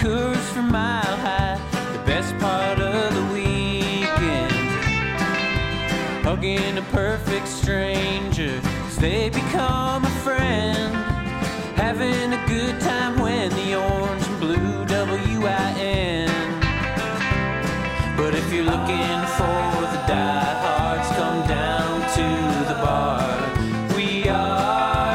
Coors from Mile High, the best part of the weekend. Hugging a perfect stranger as they become a friend. Having a good time when the orange and blue WIN. But if you're looking for the diehards, come down to the bar. We are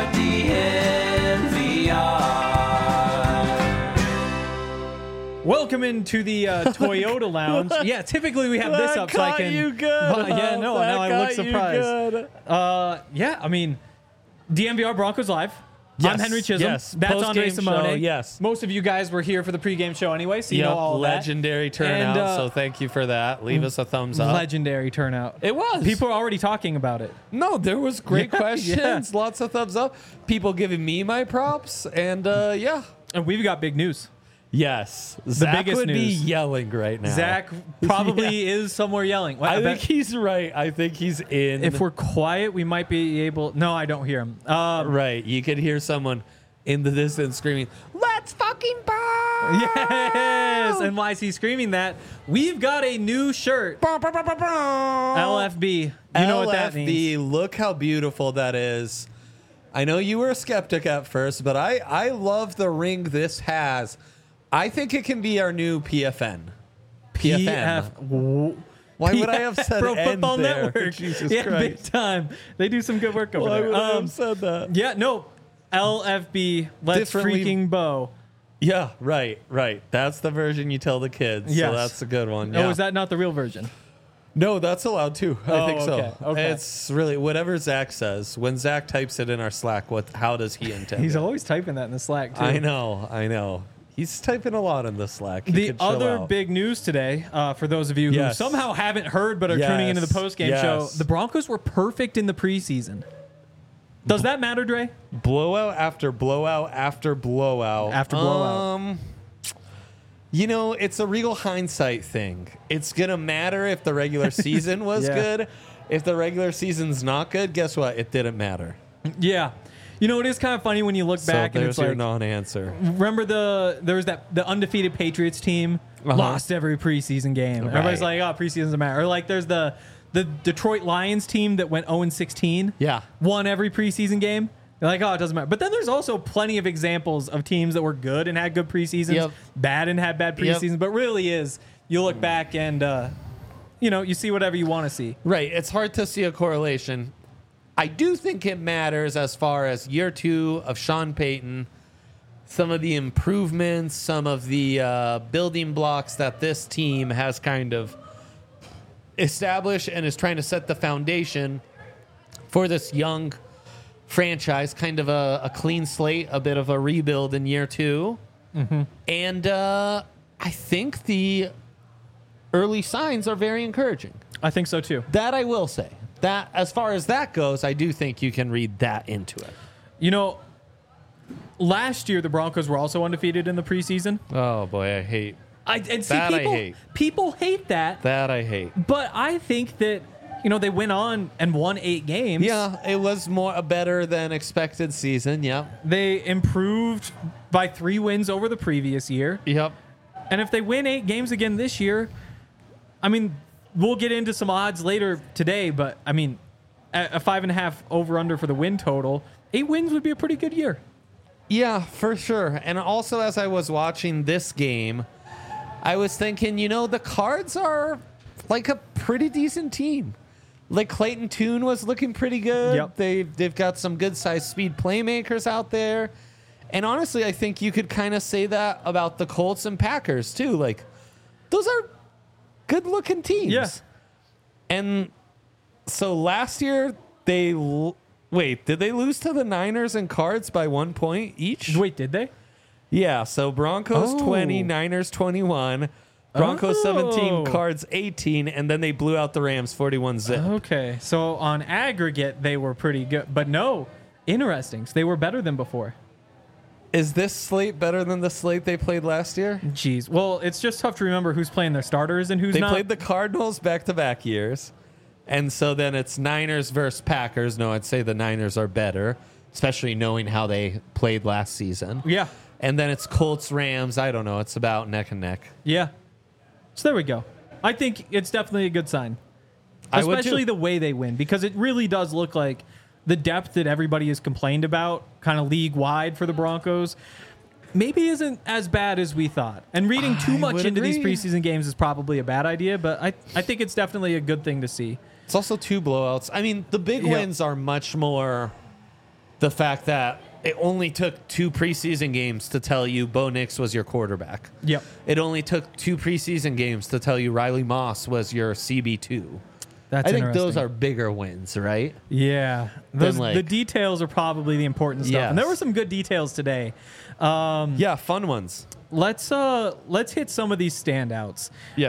DNVR. Welcome into the Toyota Lounge. Yeah, typically we have this up so I can. You good? Yeah, no, now I look surprised. Yeah, I mean, DNVR Broncos Live. Yes, I'm Henry Chisholm. yes. That's Andre Post-game Simone. show, yes. Most of you guys were here for the pregame show anyway, so you know all of that. Legendary turnout, And, so thank you for that. Leave us a thumbs up. Legendary turnout. It was. People are already talking about it. No, there was great Yeah, questions. yeah. Lots of thumbs up. People giving me my props, and yeah. And we've got big news. Yes. Zach biggest would be news. yelling right now. Zach probably is somewhere yelling. I think bet he's right. I think he's in. if we're quiet, we might be able. No, I don't hear him. Right. You could hear someone in the distance screaming, "Let's fucking burn!" Yes. And why is he screaming that? We've got a new shirt. LFB. You know what that means. LFB, look how beautiful that is. I know you were a skeptic at first, but I love the ring this has. I think it can be our new PFN. PFN. Why would I have said Pro N Football there? Network. Jesus yeah, Christ. big time. They do some good work over Why there. would I have said that? Yeah, no. LFB. Let's Differently- freaking bow. Yeah, right. That's the version you tell the kids. Yes. So that's a good one. Oh, Yeah. is that not the real version? No, that's allowed too. I Oh, think so. okay. It's really whatever Zach says. When Zach types it in our Slack, how does he intend He's it? always typing that in the Slack, too. I know. He's typing a lot in the Slack. He The could chill other out. big news today, for those of you who Yes. somehow haven't heard but are Yes. tuning into the postgame show, Yes. the Broncos were perfect in the preseason. Does that matter, Dre? blowout after blowout after blowout. After blowout. You know, it's a real hindsight thing. It's going to matter if the regular season was Yeah. good. If the regular season's not good, guess what? It didn't matter. Yeah. You know, it is kind of funny when you look back so and there's it's your like, non-answer. remember there was the undefeated Patriots team lost every preseason game. Right. Everybody's like, oh, preseason doesn't matter. Or like there's the Detroit Lions team that went 0-16. Yeah. Won every preseason game. They're like, oh, it doesn't matter. But then there's also plenty of examples of teams that were good and had good preseasons, Yep. bad and had bad Yep. preseasons. But really is, you look back and, you see whatever you want to see. Right. It's hard to see a correlation. I do think it matters as far as year 2 of Sean Payton, some of the improvements, some of the building blocks that this team has kind of established and is trying to set the foundation for this young franchise, kind of a clean slate, a bit of a rebuild in year 2. Mm-hmm. And I think the early signs are very encouraging. I think so, too. That I will say. That as far as that goes, I do think you can read that into it. You know, last year the Broncos were also undefeated in the preseason. Oh boy, I hate That I hate. People hate that. that. I hate. But I think that, they went on and won 8 games. Yeah, it was a better than expected season. Yep. They improved by 3 wins over the previous year. Yep. And if they win 8 games again this year, we'll get into some odds later today, but a 5.5 over under for the win total, 8 wins would be a pretty good year. Yeah, for sure. And also, as I was watching this game, I was thinking, the Cards are like a pretty decent team. Like Clayton Tune was looking pretty good. Yep. They've got some good sized speed playmakers out there. And honestly, I think you could kind of say that about the Colts and Packers too. Like, those are good looking teams. Yeah. And so last year did they lose to the Niners and Cards by 1 point each? Wait, did they? Yeah, so Broncos 20, Niners 21, Broncos 17, Cards 18, and then they blew out the Rams 41-zip. Okay, so on aggregate, they were pretty good. But no, interesting. So they were better than before. Is this slate better than the slate they played last year? Jeez. Well, it's just tough to remember who's playing their starters and who's They not. played the Cardinals back-to-back years, and so then it's Niners versus Packers. No, I'd say the Niners are better, especially knowing how they played last season. Yeah. And then it's Colts, Rams. I don't know. It's about neck and neck. Yeah. So there we go. I think it's definitely a good sign. I would Especially too. the way they win, because it really does look like the depth that everybody has complained about, kind of league-wide for the Broncos, maybe isn't as bad as we thought. And reading too I much would into these agree. preseason games is probably a bad idea, but I think it's definitely a good thing to see. It's also 2 blowouts. I mean, the big Yeah. wins are much more the fact that it only took 2 preseason games to tell you Bo Nix was your quarterback. Yep. It only took 2 preseason games to tell you Riley Moss was your CB2. That's I think those interesting. are bigger wins, right? Yeah. like- The details are probably the important stuff. And there Yes. were some good details today. Yeah, fun ones. Let's hit some of these standouts. Yes.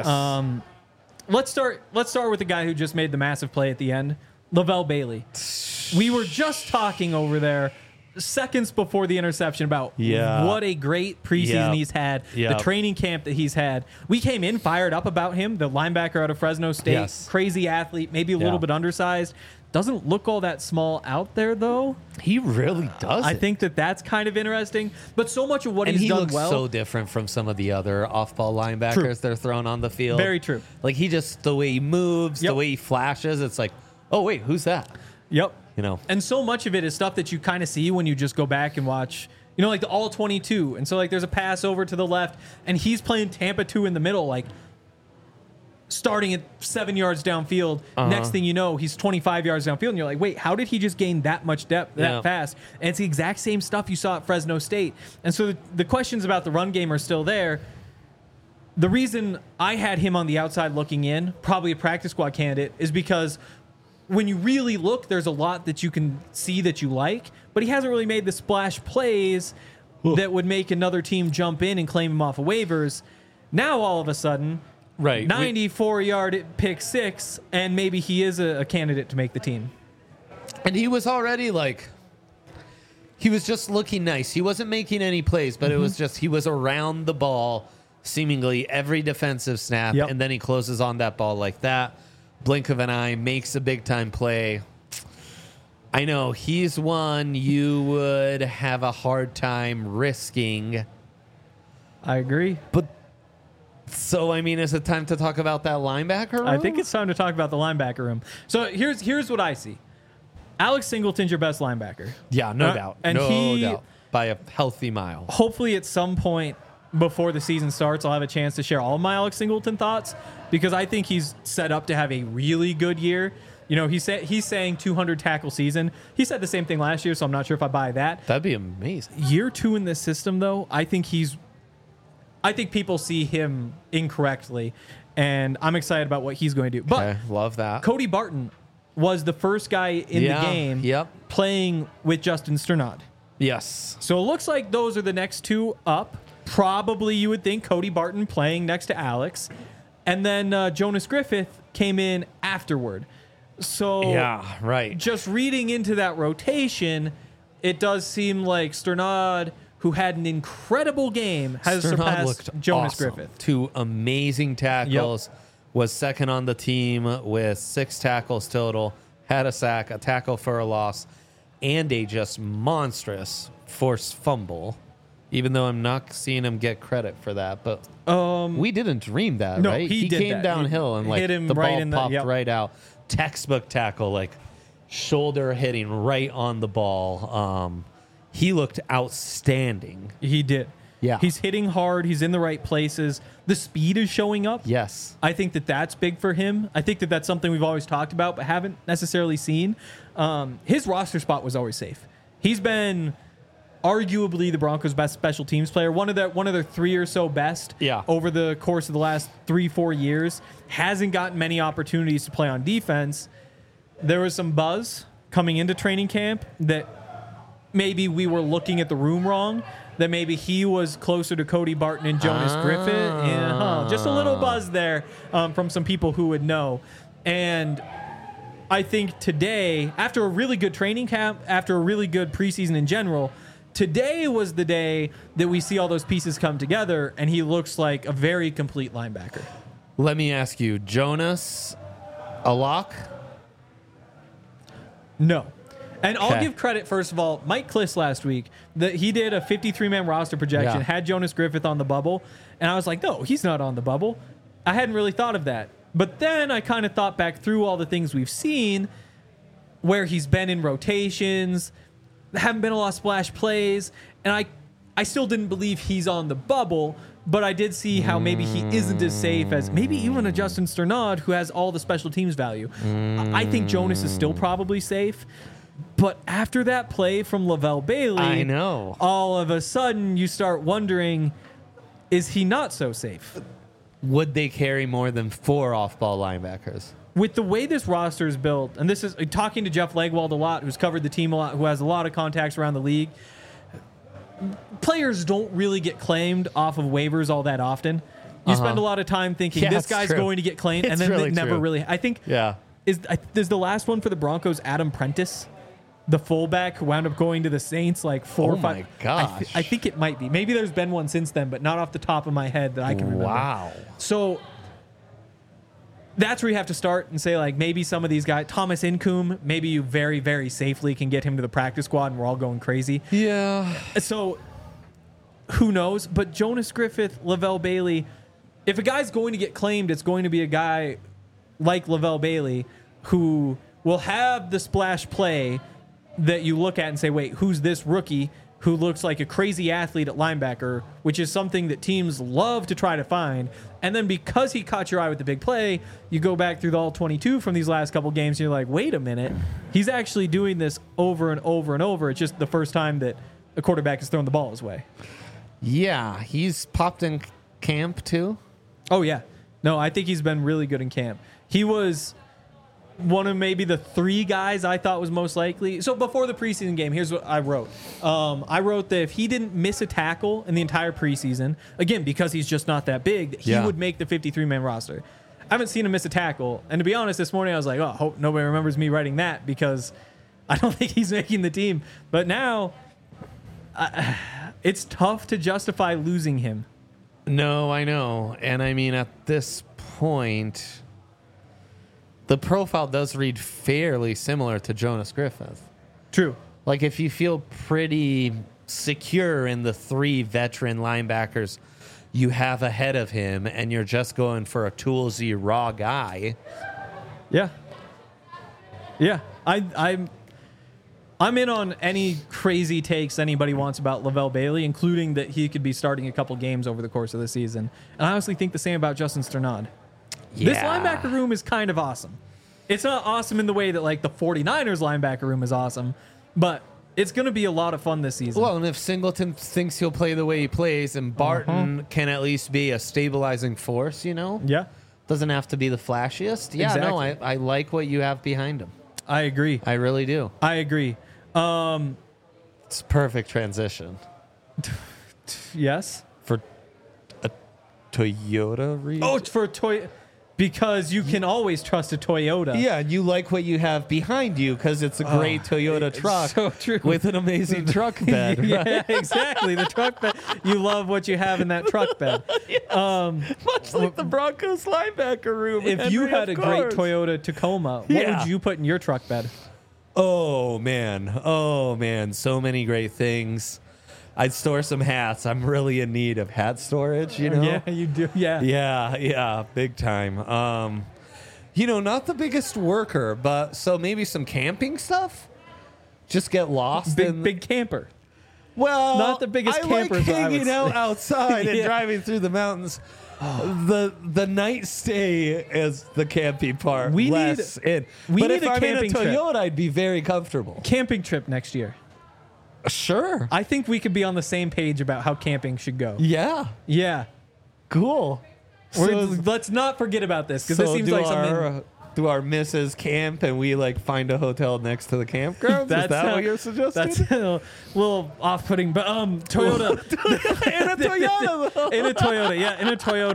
Let's start with the guy who just made the massive play at the end, Lavelle Bailey. We were just talking over there seconds before the interception about Yeah. what a great preseason Yep. he's had, Yep. the training camp that he's had. We came in fired up about him, the linebacker out of Fresno State, Yes. crazy athlete, maybe a little Yeah. bit undersized. Doesn't look all that small out there, though. He really does. I think that's kind of interesting. But so much of what and he's he done looks well. so different from some of the other off-ball linebackers True. they're throwing on the field. Very true. Like he just the way he moves, Yep. the way he flashes. It's like, oh wait, who's that? Yep. You know. And so much of it is stuff that you kind of see when you just go back and watch, like the all 22. And so like there's a pass over to the left and he's playing Tampa 2 in the middle, like starting at 7 yards downfield. Next thing you know, he's 25 yards downfield and you're like, wait, how did he just gain that much depth that Yeah. fast? And it's the exact same stuff you saw at Fresno State. And so the questions about the run game are still there. The reason I had him on the outside looking in, probably a practice squad candidate, is because when you really look, there's a lot that you can see that you like, but he hasn't really made the splash plays that would make another team jump in and claim him off of waivers. Now, all of a sudden, Right. 94-yard pick 6, and maybe he is a candidate to make the team. And he was already like, he was just looking nice. He wasn't making any plays, but it was just, he was around the ball seemingly every defensive snap. Yep. And then he closes on that ball like that. Blink of an eye, makes a big time play. I know he's one you would have a hard time risking. I agree. So, I mean, is it time to talk about that linebacker room? I think it's time to talk about the linebacker room. So here's what I see. Alex Singleton's your best linebacker. Yeah, no doubt. And no doubt. By a healthy mile. Hopefully at some point before the season starts, I'll have a chance to share all of my Alex Singleton thoughts because I think he's set up to have a really good year. He's saying 200 tackle season. He said the same thing last year, so I'm not sure if I buy that. That'd be amazing. Year 2 in this system, though, I think people see him incorrectly, and I'm excited about what he's going to do. But Okay, love that. Cody Barton was the first guy in the Yeah, game yep. playing with Justin Sternad. Yes. So it looks like those are the next 2 up. Probably you would think Cody Barton playing next to Alex. And then Jonas Griffith came in afterward. So Yeah, right. just reading into that rotation, it does seem like Sternad, who had an incredible game, has Sternad surpassed looked Jonas awesome. Griffith. 2 amazing tackles. Was second on the team with 6 tackles total. Had a sack, a tackle for a loss, and a just monstrous forced fumble. Even though I'm not seeing him get credit for that, but we didn't dream that, No, right? he did came that. downhill He and like hit him the right ball in the- popped yep. right out. Textbook tackle, like shoulder hitting right on the ball. He looked outstanding. He did. Yeah. He's hitting hard. He's in the right places. The speed is showing up. Yes. I think that's big for him. I think that's something we've always talked about, but haven't necessarily seen. His roster spot was always safe. He's been arguably the Broncos' best special teams player, one of their 3 or so best Yeah. over the course of the last 3-4 years. Hasn't gotten many opportunities to play on defense. There was some buzz coming into training camp that maybe we were looking at the room wrong, that maybe he was closer to Cody Barton and Jonas Griffith. Yeah, just a little buzz there from some people who would know. And I think today, after a really good training camp, after a really good preseason in general, today was the day that we see all those pieces come together, and he looks like a very complete linebacker. Let me ask you, Jonas, a lock? No. And I'll Okay. give credit, first of all, Mike Kliss last week, that he did a 53-man roster projection, Yeah. had Jonas Griffith on the bubble, and I was like, no, he's not on the bubble. I hadn't really thought of that. But then I kind of thought back through all the things we've seen where he's been in rotations, haven't been a lot of splash plays, and I still didn't believe he's on the bubble, but I did see how maybe he isn't as safe as maybe even a Justin Sternad who has all the special teams value. I think Jonas is still probably safe, but after that play from Lavelle Bailey, I know. all of a sudden you start wondering, is he not so safe? Would they carry more than 4 off-ball linebackers? With the way this roster is built, and this is talking to Jeff Legwald a lot, who's covered the team a lot, who has a lot of contacts around the league, players don't really get claimed off of waivers all that often. You spend a lot of time thinking Yeah, this it's guy's true. going to get claimed, and It's then really it never true. really. I think Yeah. is the last one for the Broncos Adam Prentice, the fullback who wound up going to the Saints like 4 or 5. my gosh. I think it might be. Maybe there's been one since then, but not off the top of my head that I can remember. Wow. So that's where you have to start and say, like, maybe some of these guys, Thomas Incoom, maybe you very, very safely can get him to the practice squad and we're all going crazy. Yeah. So who knows? But Jonas Griffith, Lavelle Bailey, if a guy's going to get claimed, it's going to be a guy like Lavelle Bailey who will have the splash play that you look at and say, wait, who's this rookie who looks like a crazy athlete at linebacker, which is something that teams love to try to find. And then because he caught your eye with the big play, you go back through the all 22 from these last couple games, and you're like, wait a minute, he's actually doing this over and over and over. It's just the first time that a quarterback has thrown the ball his way. Yeah. He's popped in camp, too. Oh, yeah. No, I think he's been really good in camp. He was one of maybe the 3 guys I thought was most likely. So before the preseason game, here's what I wrote. I wrote that if he didn't miss a tackle in the entire preseason, again, because he's just not that big, that he Yeah. would make the 53-man roster. I haven't seen him miss a tackle. And to be honest, this morning I was like, oh, I hope nobody remembers me writing that because I don't think he's making the team. But now it's tough to justify losing him. No, I know. And I mean, at this point, the profile does read fairly similar to Jonas Griffith. True. Like, if you feel pretty secure in the 3 veteran linebackers you have ahead of him and you're just going for a toolsy raw guy. Yeah. Yeah. I'm in on any crazy takes anybody wants about Lavelle Bailey, including that he could be starting a couple games over the course of the season. And I honestly think the same about Justin Sternad. This linebacker room is kind of awesome. It's not awesome in the way that, like, the 49ers linebacker room is awesome, but it's going to be a lot of fun this season. Well, and if Singleton thinks he'll play the way he plays and Barton can at least be a stabilizing force, you know? Yeah, Doesn't have to be the flashiest. Yeah, no, Exactly. I like what you have behind him. I agree. I really do. I agree. It's perfect transition Yes. for a Toyota reason. Oh, it's for a toy. Because you can always trust a Toyota. Yeah, and you like what you have behind you because it's a great Toyota it's truck so true. with an amazing truck bed. Yeah, right? exactly. The truck bed. You love what you have in that truck bed. Much like the Broncos linebacker room. If you Henry, had a of great course. Toyota Tacoma, what Yeah. would you put in your truck bed? Oh man, so many great things. I'd store some hats. I'm really in need of hat storage, you know? Yeah, you do. Yeah. Yeah, big time. You know, not the biggest worker, but so maybe some camping stuff. Just get lost in Big camper. Well, not the biggest I camper, like is what I would hanging out say. outside and Yeah. driving through the mountains. The night stay is the camping part. We less need- in. we But need if a I'm in a camping trip. Toyota, I'd be very comfortable. Camping trip next year. Sure. I think we could be on the same page about how camping should go. Yeah. Yeah. Cool. Let's not forget about this because this seems like something. Do our misses camp and we like find a hotel next to the campgrounds? Is that what you're suggesting? That's a little off-putting, but Toyota in a Toyota, though. in a Toyota, yeah, in a Toyota.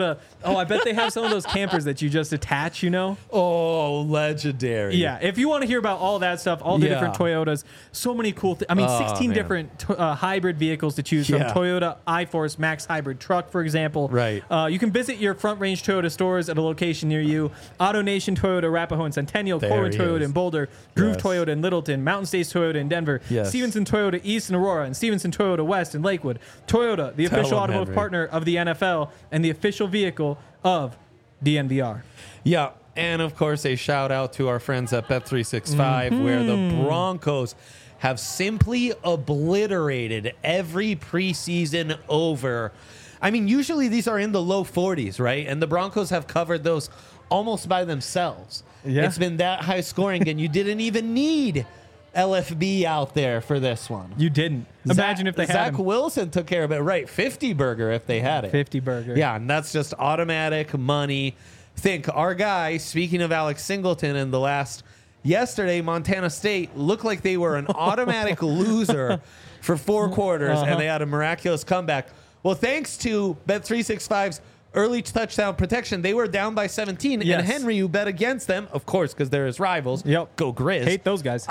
Oh, I bet they have some of those campers that you just attach, you know? Oh, legendary. Yeah, if you want to hear about all that stuff, all the different Toyotas, so many cool things. I mean, 16 man. different hybrid vehicles to choose from. Yeah. Toyota iForce Max Hybrid Truck, for example. Right. You can visit your Front Range Toyota stores at a location near you. Auto Nation Toyota, Arapahoe and Centennial, There Corwin he Toyota is. in Boulder, Groove Yes. Toyota in Littleton, Mountain States Toyota in Denver, Yes. Stevenson Toyota East in Aurora, and Stevenson Toyota West in Lakewood. Toyota, the Tell official him, automotive Henry. partner of the NFL and the official vehicle of DNVR. Yeah. And of course, a shout out to our friends at Bet365, where the Broncos have simply obliterated every preseason over. I mean, usually these are in the low 40s, right? And the Broncos have covered those almost by themselves. Yeah. It's been that high scoring, and you didn't even need LFB out there for this one. You didn't. Imagine if they had Zach him. Wilson took care of it, right? 50 burger if they had it. 50 burger. Yeah, and that's just automatic money. Think our guy, speaking of Alex Singleton in the last yesterday, Montana State looked like they were an automatic loser for 4 quarters, and they had a miraculous comeback. Well, thanks to Bet365's early touchdown protection, they were down by 17. Yes. And Henry, you bet against them, of course, because they're his rivals. Yep. Go Grizz. Hate those guys.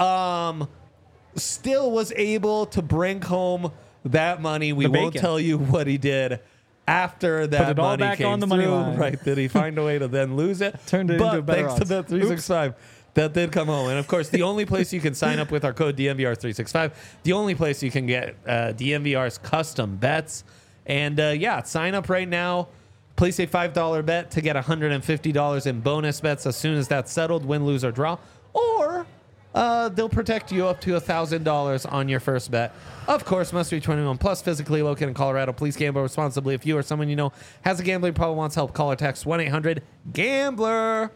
Still was able to bring home that money. We The won't bacon. tell you what he did after that it all money back came on the money through. line. Right? Did he find a way to then lose it? Turned it but into better thanks to odds. Bet365, that did come home. And of course, the only place you can sign up with our code DNVR365, the only place you can get DNVR's custom bets. And yeah, sign up right now. Place a $5 bet to get $150 in bonus bets as soon as that's settled, win, lose, or draw. Or they'll protect you up to $1,000 on your first bet. Of course, must be 21 plus, physically located in Colorado. Please gamble responsibly. If you or someone you know has a gambling problem, wants help, call or text 1-800-GAMBLER.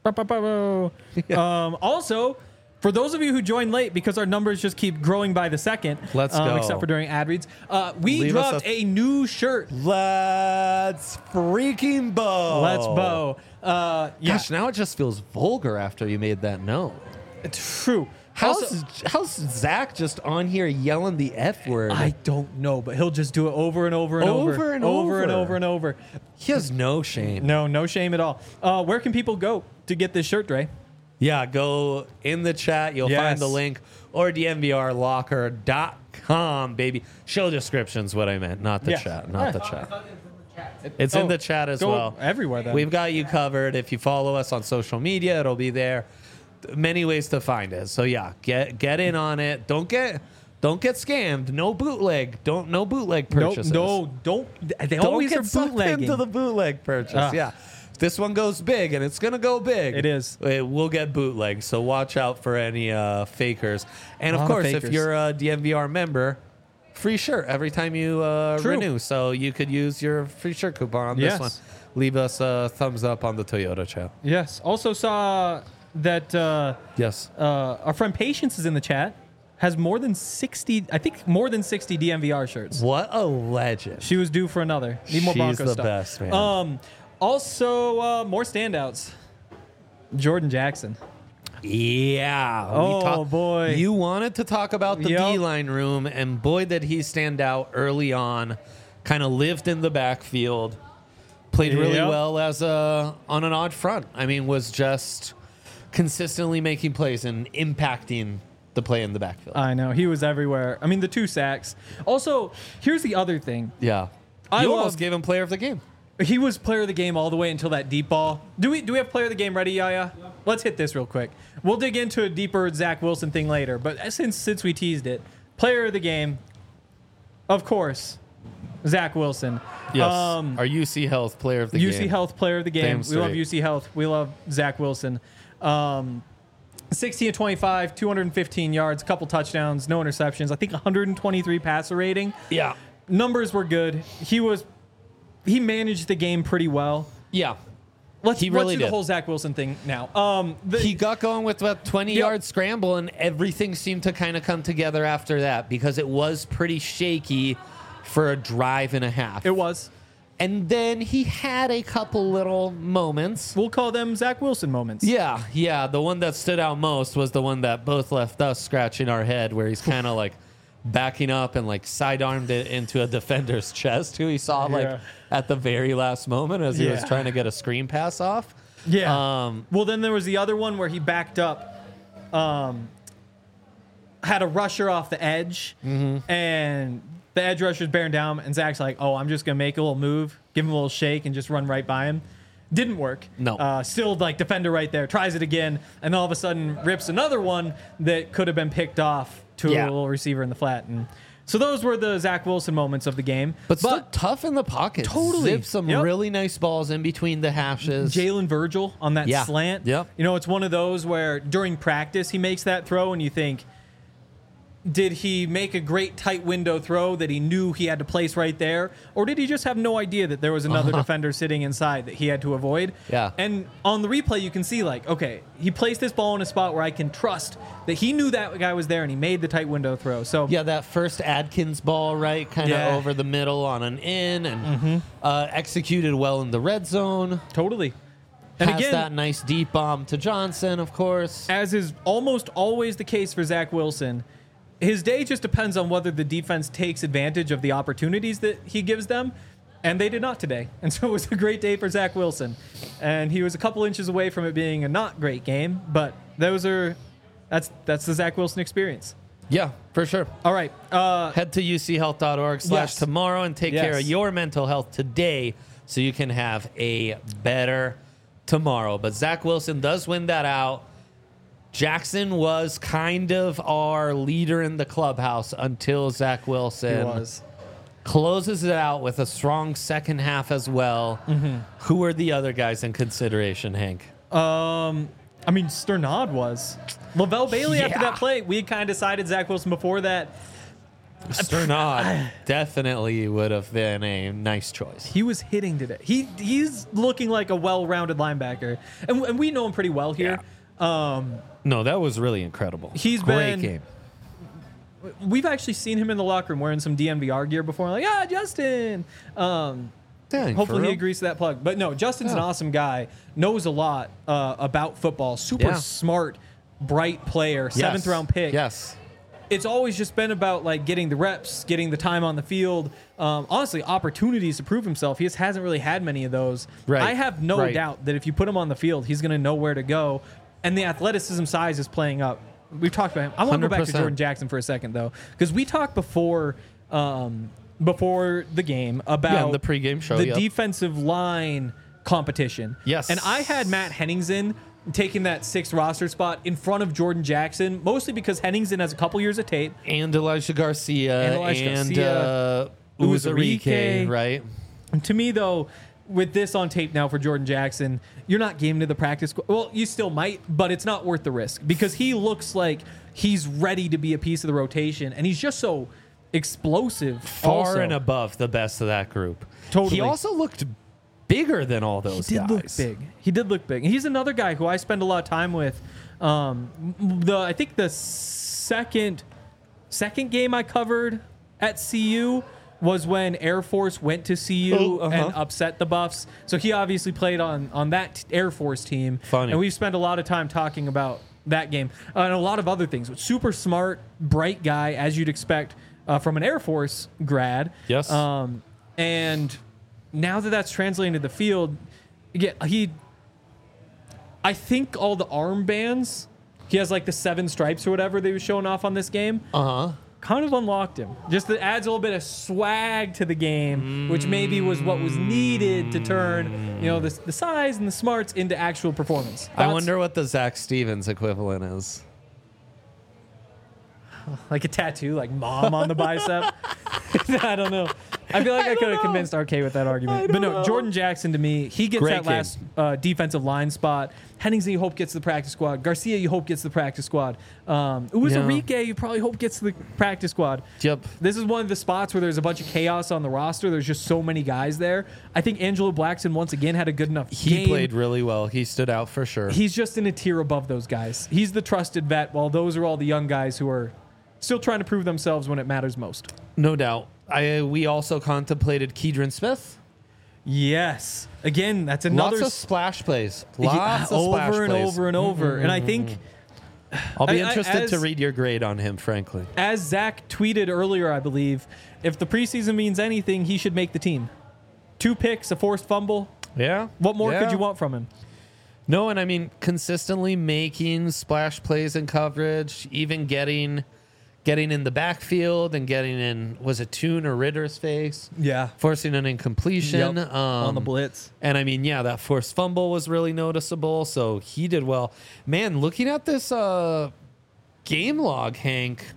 Also, for those of you who joined late, because our numbers just keep growing by the second, Let's go. except for during ad reads, we Leave us dropped a- a new shirt. Let's freaking bow. Let's bow. Yeah, Gosh, now it just feels vulgar after you made that note. true. How's Zach just on here yelling the F word? I don't know, but he'll just do it over and over and over. Over and over and over. over and over. He has no shame. No shame at all. Where can people go to get this shirt, Dre? Yeah, go in the chat. You'll Yes. find the link, or dnvrlocker.com, baby. Show description's what I meant, not the Yeah. chat. Not the chat. It's Oh, in the chat as go well. everywhere then. We've got you covered. If you follow us on social media, it'll be there. Many ways to find it. So yeah, get in on it. Don't get scammed. No bootleg. No bootleg purchases. No, don't. They Don't always get are sucked bootlegging. into the bootleg purchase. Ah. Yeah. If this one goes big, and it's going to go big. It is. It will get bootleg, so watch out for any fakers. And A of lot of course, if fakers. you're a DNVR member, free shirt every time you True. renew. So you could use your free shirt coupon on Yes. this one. Leave us a thumbs up on the Toyota chat. Yes. Also saw that Yes. our friend Patience is in the chat. Has more than 60, I think more than 60 DNVR shirts. What a legend. She was due for another. Need more She's Broncos the stuff. best, man. Also, more standouts. Jordan Jackson. Yeah. Oh, boy. You wanted to talk about the Yep. D-line room, and boy, did he stand out early on. Kind of lived in the backfield. Played really Yep. well as on an odd front. I mean, was just consistently making plays and impacting the play in the backfield. I know. He was everywhere. I mean, the 2 sacks. Also, here's the other thing. Yeah. I You love- almost gave him player of the game. He was player of the game all the way until that deep ball. Do we have player of the game ready, Yaya? Yeah. Let's hit this real quick. We'll dig into a deeper Zach Wilson thing later, but since we teased it, player of the game, of course, Zach Wilson. Yes. Our UC Health player of the game. UC Health player of the game. Damn We love straight. UC Health. We love Zach Wilson. 16 of 25, 215 yards, couple touchdowns, no interceptions. I think 123 passer rating. Yeah. Numbers were good. He managed the game pretty well. Yeah. Let's He really do the did. whole Zach Wilson thing now. He got going with a 20-yard scramble, and everything seemed to kind of come together after that because it was pretty shaky for a drive and a half. It was. And then he had a couple little moments. We'll call them Zach Wilson moments. Yeah. The one that stood out most was the one that both left us scratching our head, where he's kind of like backing up and like sidearmed it into a defender's chest who he saw like at the very last moment as he was trying to get a screen pass off. Yeah. Well, then there was the other one where he backed up, had a rusher off the edge, and the edge rusher's bearing down, and Zach's like, oh, I'm just going to make a little move, give him a little shake, and just run right by him. Didn't work. No. Still, like, defender right there, tries it again, and all of a sudden rips another one that could have been picked off to a little receiver in the flat. And so those were the Zach Wilson moments of the game. But still tough in the pocket. Totally. Zipped some really nice balls in between the hashes. Jalen Virgil on that slant. Yep. You know, it's one of those where during practice he makes that throw and you think, did he make a great tight window throw that he knew he had to place right there? Or did he just have no idea that there was another defender sitting inside that he had to avoid? Yeah. And on the replay, you can see, like, okay, he placed this ball in a spot where I can trust that he knew that guy was there and he made the tight window throw. So yeah, that first Adkins ball, right, kind of over the middle on an in and executed well in the red zone. Totally. And Has again, that nice deep bomb to Johnson, of course. as is almost always the case for Zach Wilson, his day just depends on whether the defense takes advantage of the opportunities that he gives them, and they did not today. And so it was a great day for Zach Wilson. And he was a couple inches away from it being a not great game, but that's the Zach Wilson experience. Yeah, for sure. All right. Head to uchealth.org/tomorrow and take care of your mental health today so you can have a better tomorrow. But Zach Wilson does win that out. Jackson was kind of our leader in the clubhouse until Zach Wilson closes it out with a strong second half as well. Who are the other guys in consideration, Hank? I mean, Sternad was. Lavelle Bailey after that play. We had kind of decided Zach Wilson before that. Sternad definitely would have been a nice choice. He was hitting today. He's looking like a well-rounded linebacker. And we know him pretty well here. No, that was really incredible. He's Great been game. We've actually seen him in the locker room wearing some DNVR gear before. Like, Justin. Hopefully he agrees to that plug. But no, Justin's an awesome guy. Knows a lot about football. Super smart, bright player. Seventh round pick. Yes. It's always just been about like getting the reps, getting the time on the field. Honestly, opportunities to prove himself. He just hasn't really had many of those. Right. I have no doubt that if you put him on the field, he's going to know where to go. And the athleticism size is playing up. We've talked about him. I want to go back to Jordan Jackson for a second, though, because we talked before the game about the pregame show, the defensive line competition. Yes. And I had Matt Henningsen taking that 6th roster spot in front of Jordan Jackson, mostly because Henningsen has a couple years of tape. And Elijah Garcia. And Uzarike, right? And to me, though, with this on tape now for Jordan Jackson, you're not game to the practice squad. Well, you still might, but it's not worth the risk because he looks like he's ready to be a piece of the rotation, and he's just so explosive. Far and above the best of that group. Totally. He also looked bigger than all those guys. He did look big. He's another guy who I spend a lot of time with. I think the second game I covered at CU was when Air Force went to CU and upset the Buffs. So he obviously played on that Air Force team. Funny. And we've spent a lot of time talking about that game and a lot of other things. Super smart, bright guy, as you'd expect from an Air Force grad. Yes. And now that that's translating to the field, I think all the armbands, he has like the 7 stripes or whatever they were showing off on this game. Kind of unlocked him. Just that adds a little bit of swag to the game, which maybe was what was needed to turn, the size and the smarts into actual performance. I wonder what the Zach Stevens equivalent is. Like a tattoo, like mom on the bicep. I don't know. I feel like I could have convinced RK with that argument. But no, Jordan Jackson to me, he gets that last defensive line spot. Henningsen, you hope gets to the practice squad. Garcia, you hope gets to the practice squad. Uzarike, you probably hope gets to the practice squad. Yep. This is one of the spots where there's a bunch of chaos on the roster. There's just so many guys there. I think Angelo Blackson once again had a good enough game. He played really well. He stood out for sure. He's just in a tier above those guys. He's the trusted vet, while those are all the young guys who are still trying to prove themselves when it matters most. No doubt. We also contemplated Keidron Smith. Yes. Again, that's another... Lots of splash plays. Over and over. And I think I'll be I- interested to as- read your grade on him, frankly. As Zach tweeted earlier, I believe, if the preseason means anything, he should make the team. 2 picks, a forced fumble. Yeah. What more Yeah. could you want from him? No, and I mean consistently making splash plays in coverage, even getting in the backfield and getting in, was it Toon or Ritter's face? Yeah. Forcing an incompletion. Yep, on the blitz. And I mean, yeah, that forced fumble was really noticeable, so he did well. Man, looking at this game log, Hank,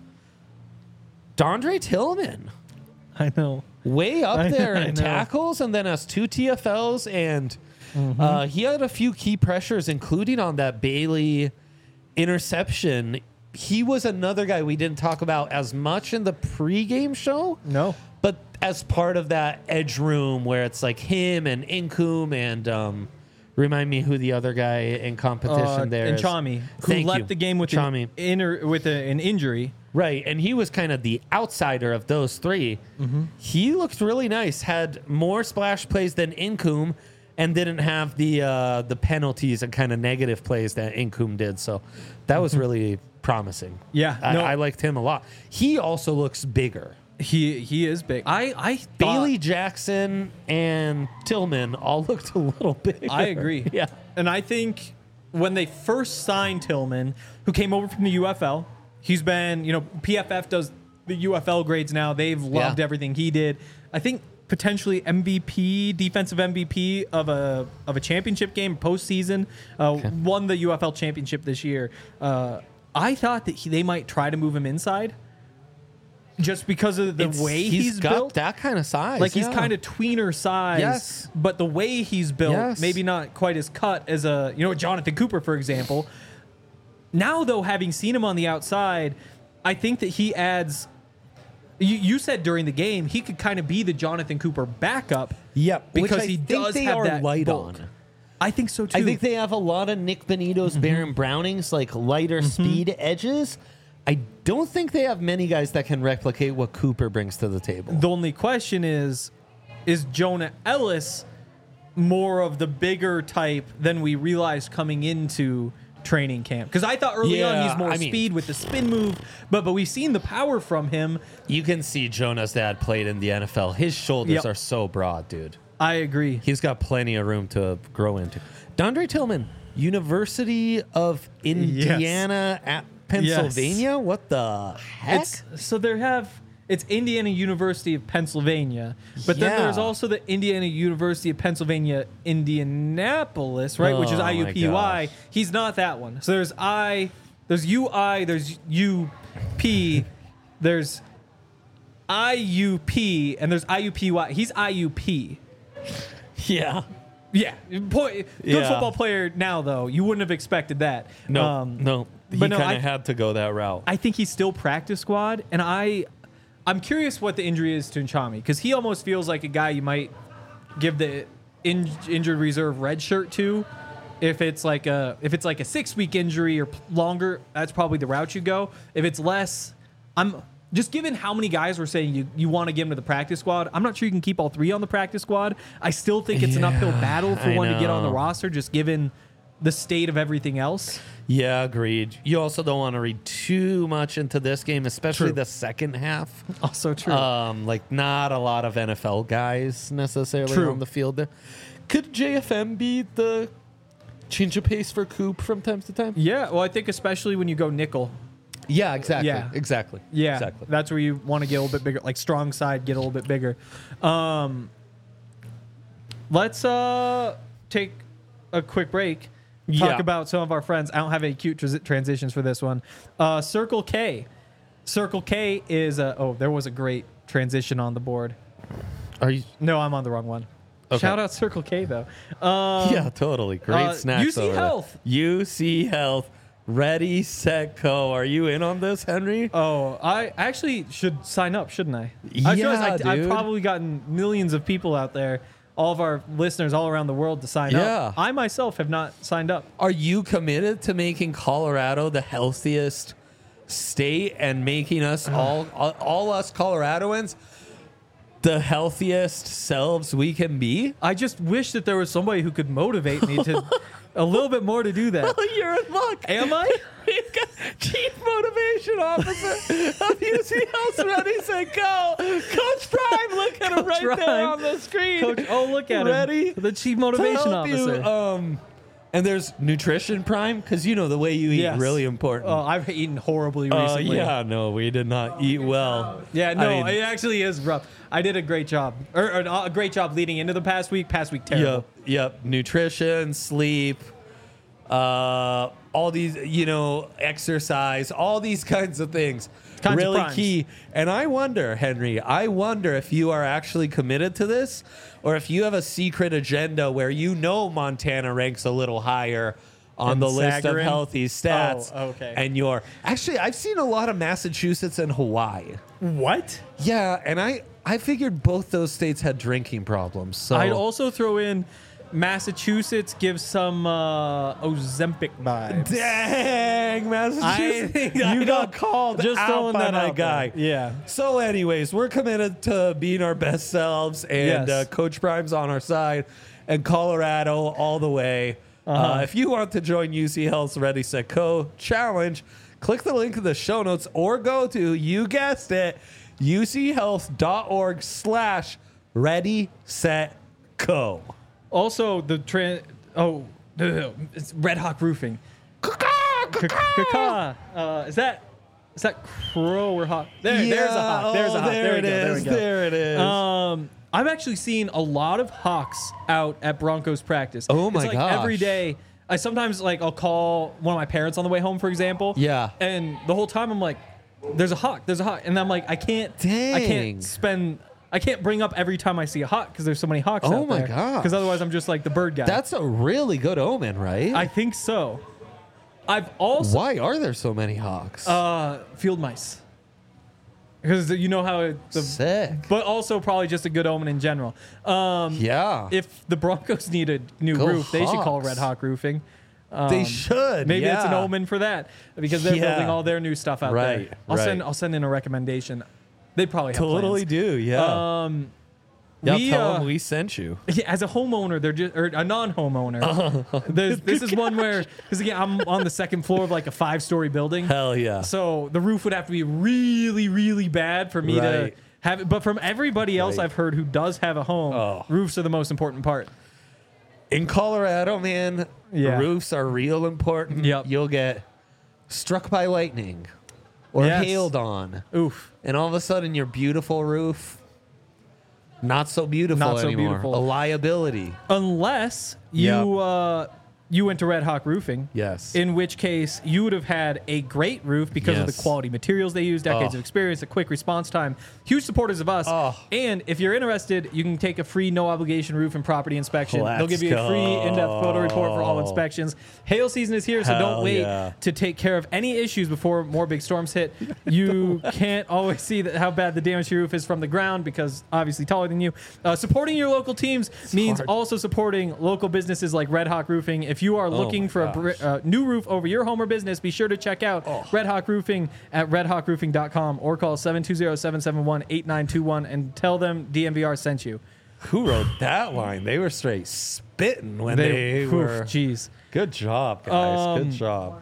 Dondre Tillman, I know. way up I there know. in tackles, and then has 2 TFLs, and he had a few key pressures, including on that Bailey interception. He was another guy we didn't talk about as much in the pregame show, No. but as part of that edge room where it's like him and Incoom and remind me who the other guy in competition there and is. Chami, who Thank left you. the game with Chami. an injury. Right, and he was kind of the outsider of those 3. He looked really nice, had more splash plays than Incoom, and didn't have the penalties and kind of negative plays that Incoom did. So that was really promising. Yeah, I liked him a lot. He also looks bigger. He is big. I thought, Bailey Jackson and Tillman all looked a little bigger. I agree. Yeah. And I think when they first signed Tillman, who came over from the UFL, he's been, PFF does the UFL grades now. They've loved Yeah. everything he did. I think potentially MVP, defensive MVP of a championship game postseason. Won the UFL championship this year. I thought that they might try to move him inside, just because of the way he's got built. that kind of size. Like he's yeah. kind of tweener size, Yes. but the way he's built, Yes. maybe not quite as cut as Jonathan Cooper, for example. Now, though, having seen him on the outside, I think that he adds. You said during the game he could kind of be the Jonathan Cooper backup. Yep, because which I he think does they have are that light bulk. on. I think so too. I think they have a lot of Nick Benito's, Baron Browning's, like lighter speed edges. I don't think they have many guys that can replicate what Cooper brings to the table. The only question is Jonah Ellis more of the bigger type than we realized coming into training camp? Because I thought early on Yeah, he's more I mean- speed with the spin move, but we've seen the power from him. You can see Jonah's dad played in the NFL. His shoulders Yep. are so broad, dude. I agree. He's got plenty of room to grow into. Dondre Tillman, University of Indiana at Pennsylvania? What the heck? It's Indiana University of Pennsylvania, but then Yeah. there's also the Indiana University of Pennsylvania Indianapolis, right? Which is Oh, my IUPUI. gosh. He's not that one. So there's UI, there's UP, there's IUP, and there's IUPUI. He's IUP. Yeah. Yeah, good Yeah. football player now though. You wouldn't have expected that. No, no. He but no, kind I- of had to go that route. I think he's still practice squad, and I'm curious what the injury is to Nchami, because he almost feels like a guy you might give the injured reserve red shirt to. If it's like a 6-week injury or longer, that's probably the route you go. If it's less, I'm just given how many guys were saying you want to give him to the practice squad. I'm not sure you can keep all 3 on the practice squad. I still think it's an uphill battle for I one to get on the know. roster, just given the state of everything else. Yeah, agreed. You also don't want to read too much into this game, especially True. the second half. Also true. Like not a lot of NFL guys necessarily True. on the field there. Could JFM be the change of pace for Coop from time to time? Yeah, well, I think especially when you go nickel. Yeah, exactly. Yeah. Exactly. Yeah, Exactly. that's where you want to get a little bit bigger, like strong side, get a little bit bigger. Let's take a quick break. Talk Yeah. about some of our friends. I don't have any cute transitions for this one. Circle K. Circle K is there was a great transition on the board. Are you? No, I'm on the wrong one. Okay. Shout out Circle K though. Yeah, totally. Great snacks. UC over there. Health. UC Health. Ready, set, go. Are you in on this, Henry? Oh, I actually should sign up, shouldn't I? Yeah, I feel like I've dude. probably gotten millions of people out there, all of our listeners all around the world to sign Yeah. up. I myself have not signed up. Are you committed to making Colorado the healthiest state and making us all us Coloradoans the healthiest selves we can be? I just wish that there was somebody who could motivate me to a little bit more to do that. You're in luck. Am I? Chief Motivation Officer of UC Health Ready, Set, Go. Coach Prime, look at him right there Prime. on the screen. Coach, oh, look at Ready him. The Chief to Motivation help you, Officer. and there's Nutrition Prime, because you know the way you eat Yes. really important. Oh, I've eaten horribly recently. Yeah, no, we did not eat well. Yeah, no, I mean, it actually is rough. I did a great job, or a great job leading into the past week. Past week, terrible. Yep. Nutrition, sleep, all these, exercise, all these kinds of things. Kinds of really primes. key. And I wonder, Henry, if you are actually committed to this, or if you have a secret agenda where Montana ranks a little higher on And the list of Sagarin? healthy stats. Oh, okay. And actually, I've seen a lot of Massachusetts and Hawaii. What? Yeah, and I figured both those states had drinking problems. So I'd also throw in Massachusetts gives some Ozempic vibes. Dang, Massachusetts. I You got don't- called just out throwing by that my out there. guy. Yeah. So anyways, we're committed to being our best selves, and Yes. Coach Prime's on our side, and Colorado all the way. If you want to join UC Health's Ready, Set, Go challenge, click the link in the show notes or go to, you guessed it, uchealth.org/Ready, Set, Go. Also, it's Red Hawk Roofing. Is that crow or hawk? There's a hawk. There's a hawk. There it is. There it is. I've actually seen a lot of hawks out at Broncos practice. Oh my it's like gosh. every day. I sometimes I'll call one of my parents on the way home, for example. Yeah. And the whole time I'm like, "There's a hawk. There's a hawk," and I'm like, I can't Dang. bring up every time I see a hawk because there's so many hawks. Oh out my there. gosh. Because otherwise I'm just like the bird guy. That's a really good omen, right? I think so. I've also Why are there so many hawks? field mice. Because you know how Sick. but also probably just a good omen in general. Yeah. If the Broncos need a new Go roof, they should call Hawks. Red Hawk Roofing. They should. Maybe it's an yeah. omen for that because they're Yeah. building all their new stuff out Right, there. right. I'll send in a recommendation. They probably have Totally plans. do. Yeah. We, tell them we sent you. Yeah, as a homeowner, they're just or a non-homeowner. This is one where because again I'm on the second floor of like a 5-story building. Hell yeah. So the roof would have to be really, really bad for me to Right. have it. But from everybody else Right. I've heard who does have a home, roofs are the most important part. In Colorado, man, Yeah. roofs are real important. Yep. You'll get struck by lightning or Yes. hailed on. Oof. And all of a sudden, your beautiful roof, not so beautiful Not so anymore. beautiful. A liability. Unless you went to Red Hawk Roofing. Yes. In which case, you would have had a great roof because of the Yes. quality materials they use, decades of experience, a quick response time. Huge supporters of us. And if you're interested, you can take a free no obligation roof and property inspection. They'll give you a free in-depth photo report for all inspections. Hail season is here, so Hell don't wait yeah. to take care of any issues before more big storms hit. You can't always see how bad the damage to your roof is from the ground because obviously taller than you. Supporting your local teams means hard. also supporting local businesses like Red Hawk Roofing. If you are looking my for a new roof over your home or business, be sure to check out Red Hawk Roofing at redhawkroofing.com or call 720-771-8921 and tell them DMVR sent you. Who wrote that line? They were straight spitting when they were. Jeez. Good job, guys. Good job.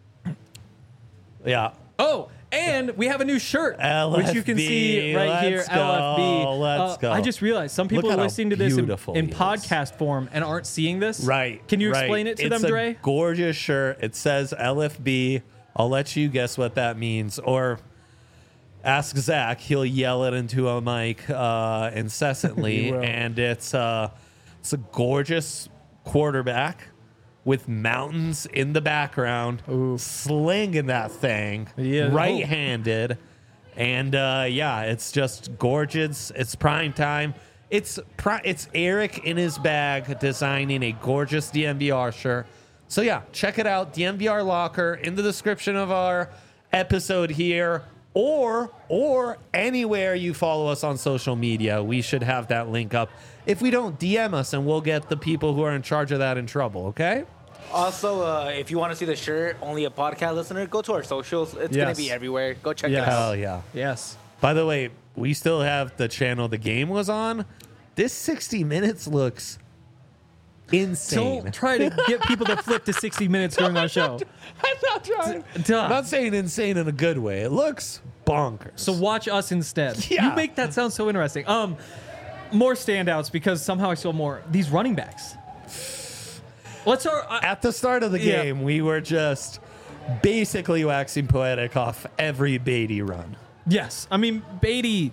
Yeah. Oh, and we have a new shirt, which you can see LFB, right here. let's go, LFB. let's go. I just realized some people Look are at how listening to this beautiful in he is. podcast form and aren't seeing this. Right. Can you right. explain it to it's them, Dre? It's a gorgeous shirt. It says LFB. I'll let you guess what that means. Or ask Zach. He'll yell it into a mic incessantly. He will. And it's a gorgeous quarterback with mountains in the background, slinging that thing, Yeah. right-handed. And yeah, it's just gorgeous. It's prime time. It's Eric in his bag designing a gorgeous DMVR shirt. So yeah, check it out. DMVR Locker in the description of our episode here, or anywhere you follow us on social media. We should have that link up. If we don't, DM us and we'll get the people who are in charge of that in trouble. Okay? Also, if you want to see the shirt, only a podcast listener, go to our socials. It's going Yes. to be everywhere. Go check Yes. it out. Hell yeah. Yes. By the way, we still have the channel the game was on. This 60 Minutes looks insane. Don't try to get people to flip to 60 minutes during our show. I'm not trying. Duh. I'm not saying insane in a good way. It looks bonkers. So watch us instead. Yeah. You make that sound so interesting. More standouts because somehow I saw more. These running backs. Let's start. At the start of the Yeah. game, we were just basically waxing poetic off every Beatty run. Yes. I mean, Beatty,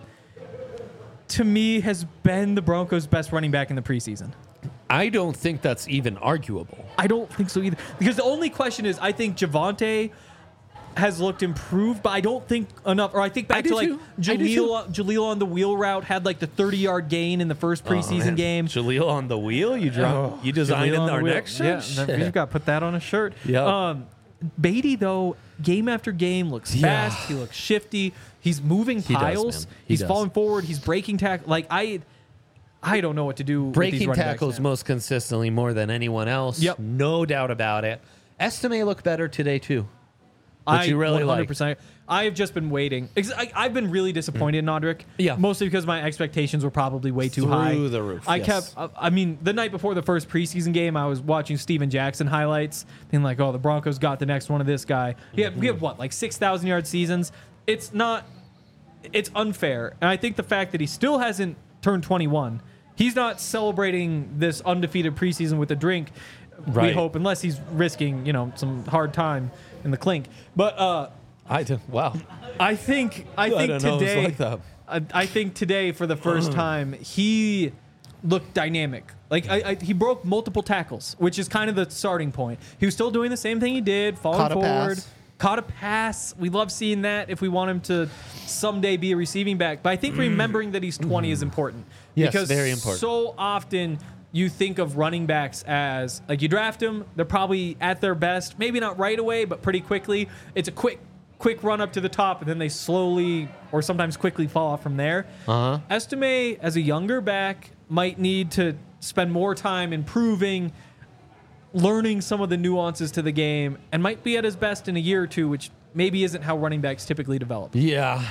to me, has been the Broncos' best running back in the preseason. I don't think that's even arguable. I don't think so either. Because the only question is, I think Javonte has looked improved, but I don't think enough. Or I think back do to like too. I do Jaleel on the wheel route had like the 30-yard gain in the first preseason game. Jaleel on the wheel? You designed Jaleel in on the our wheel. next Yeah, shirt? you've got to put that on a shirt. Yeah. Beatty, though, game after game looks Yeah. fast. He looks shifty. He's moving He does, piles. man. He He's does. falling forward. He's breaking tackle. Like, I don't know what to do with these Breaking running backs tackles now. most consistently more than anyone else. Yep. No doubt about it. Estime looked better today, too. Which you really 100%. I have just been waiting. I've been really disappointed in Nodrick. Yeah. Mostly because my expectations were probably way too Through high. the roof, I yes. kept, I mean, the night before the first preseason game, I was watching Steven Jackson highlights, being like, oh, the Broncos got the next one of this guy. We have what, like 6,000 yard seasons? It's unfair. And I think the fact that he still hasn't turned 21, he's not celebrating this undefeated preseason with a drink. We Right. hope, unless he's risking, some hard time in the clink. But Wow. I think don't know, it's today, like that. I think today for the first time he looked dynamic. Like he broke multiple tackles, which is kind of the starting point. He was still doing the same thing he did, falling Caught a forward, pass. caught a pass. We love seeing that if we want him to someday be a receiving back. But I think remembering that he's 20 is important. Yes, because very important. So often you think of running backs as like you draft them, they're probably at their best, maybe not right away, but pretty quickly. It's a quick run up to the top, and then they slowly or sometimes quickly fall off from there. Estime, as a younger back, might need to spend more time improving, learning some of the nuances to the game, and might be at his best in a year or two, which maybe isn't how running backs typically develop. Yeah.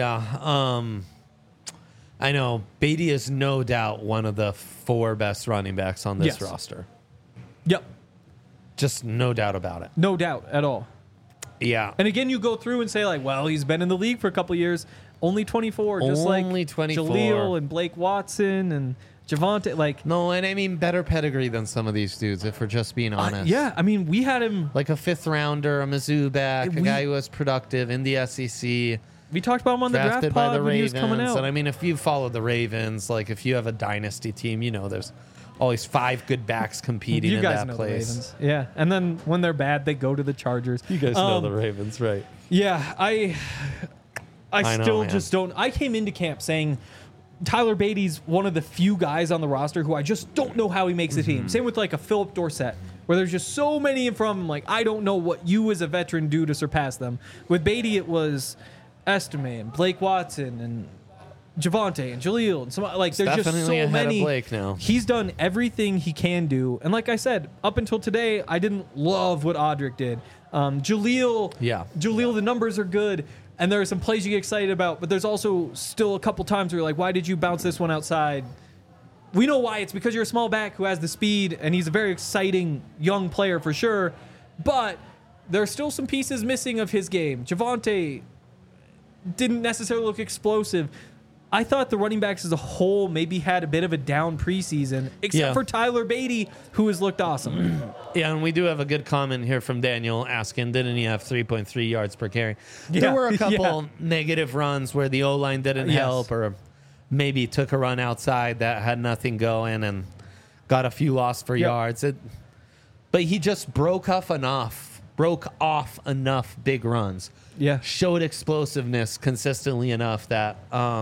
I know. Beatty is no doubt one of the 4 best running backs on this Yes. roster. Yep, Just no doubt about it. no doubt at all. Yeah. And again, you go through and say like, well, he's been in the league for a couple of years, only 24, just Only like 24. Jaleel and Blake Watson and Javonte. Like, No, and I mean better pedigree than some of these dudes, if we're just being honest. yeah, I mean, we had him. Like a 5th rounder, a Mizzou back, a guy who was productive in the SEC, We talked about him on the draft drafted by pod the when he was coming Ravens. out. And I mean, if you follow the Ravens, like if you have a dynasty team, there's always 5 good backs competing you in guys that know place. the Ravens, yeah. And then when they're bad, they go to the Chargers. You guys know the Ravens, right? Yeah, I I know, still man. just don't. I came into camp saying Tyler Beatty's one of the few guys on the roster who I just don't know how he makes the Mm-hmm. team. Same with like a Philip Dorsett, where there's just so many from him. Like, I don't know what you as a veteran do to surpass them. With Beatty, it was Estime and Blake Watson and Javonte and Jaleel and some like there's just definitely so ahead of many. Blake now. He's done everything he can do, and like I said, up until today, I didn't love what Audric did. Jaleel, Yeah. Jaleel, the numbers are good, and there are some plays you get excited about, but there's also still a couple times where you're like, why did you bounce this one outside? We know why. It's because you're a small back who has the speed, and he's a very exciting young player for sure, but there are still some pieces missing of his game. Javonte didn't necessarily look explosive. I thought the running backs as a whole maybe had a bit of a down preseason, except Yeah. for Tyler Beatty, who has looked awesome. Yeah, and we do have a good comment here from Daniel asking, didn't he have 3.3 yards per carry? Yeah. There were a couple Yeah. negative runs where the O-line didn't Yes. help, or maybe took a run outside that had nothing going and got a few lost for Yep. yards. But he just broke off enough big runs. Yeah. Showed explosiveness consistently enough that,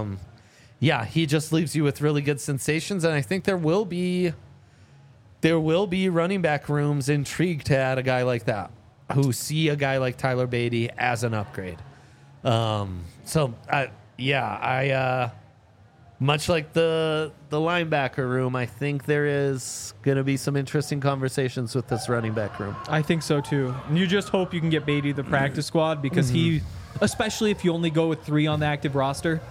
he just leaves you with really good sensations. And I think there will be running back rooms intrigued to add a guy like that, who see a guy like Tyler Beatty as an upgrade. Much like the linebacker room, I think there is going to be some interesting conversations with this running back room. I think so too. And you just hope you can get Beatty to the practice squad because he, especially if you only go with 3 on the active roster,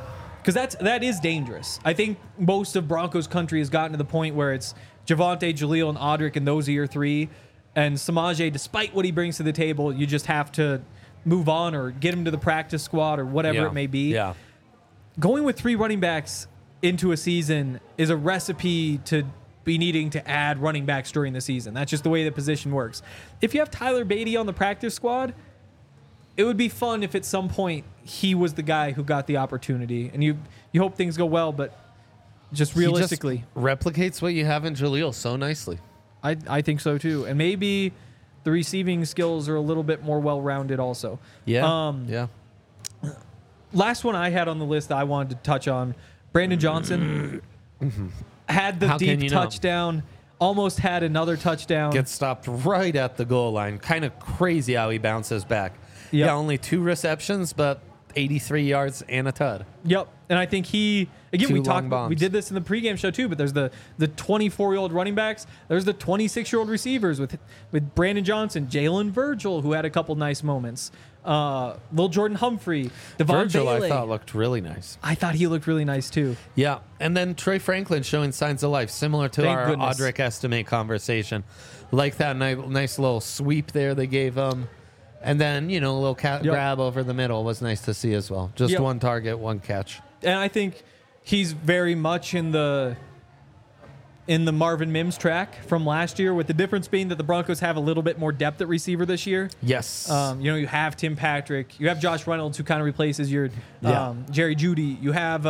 because that is dangerous. I think most of Broncos country has gotten to the point where it's Javonte, Jaleel, and Audric, and those are your three. And Samaje, despite what he brings to the table, you just have to move on or get him to the practice squad or whatever it may be. Yeah. Going with 3 running backs into a season is a recipe to be needing to add running backs during the season. That's just the way the position works. If you have Tyler Beatty on the practice squad, it would be fun if at some point he was the guy who got the opportunity. And you hope things go well, but just realistically. He just replicates what you have in Jaleel so nicely. I think so too. And maybe the receiving skills are a little bit more well-rounded also. Yeah. Yeah. Last one I had on the list that I wanted to touch on, Brandon Johnson had the How can deep you not? touchdown, almost had another touchdown. Gets stopped right at the goal line. Kind of crazy how he bounces back. Yep. Yeah, only 2 receptions, but 83 yards and a tud. Yep. And I think he, again, 2 we long talked, bombs. we did this in the pregame show too, but there's the 24-year-old running backs. There's the 26-year-old receivers with Brandon Johnson, Jalen Virgil, who had a couple nice moments. Lil Jordan Humphrey, Devon Virgil, Bailey. I thought, looked really nice. I thought he looked really nice too. Yeah, and then Troy Franklin showing signs of life, similar to Thank our goodness. Audric estimate conversation. Like that nice little sweep there they gave him. And then, a little grab over the middle was nice to see as well. Just Yep. 1 target, 1 catch. And I think he's very much in the Marvin Mims track from last year, with the difference being that the Broncos have a little bit more depth at receiver this year. Yes. You have Tim Patrick, you have Josh Reynolds, who kind of replaces your Yeah. Jerry Jeudy. You have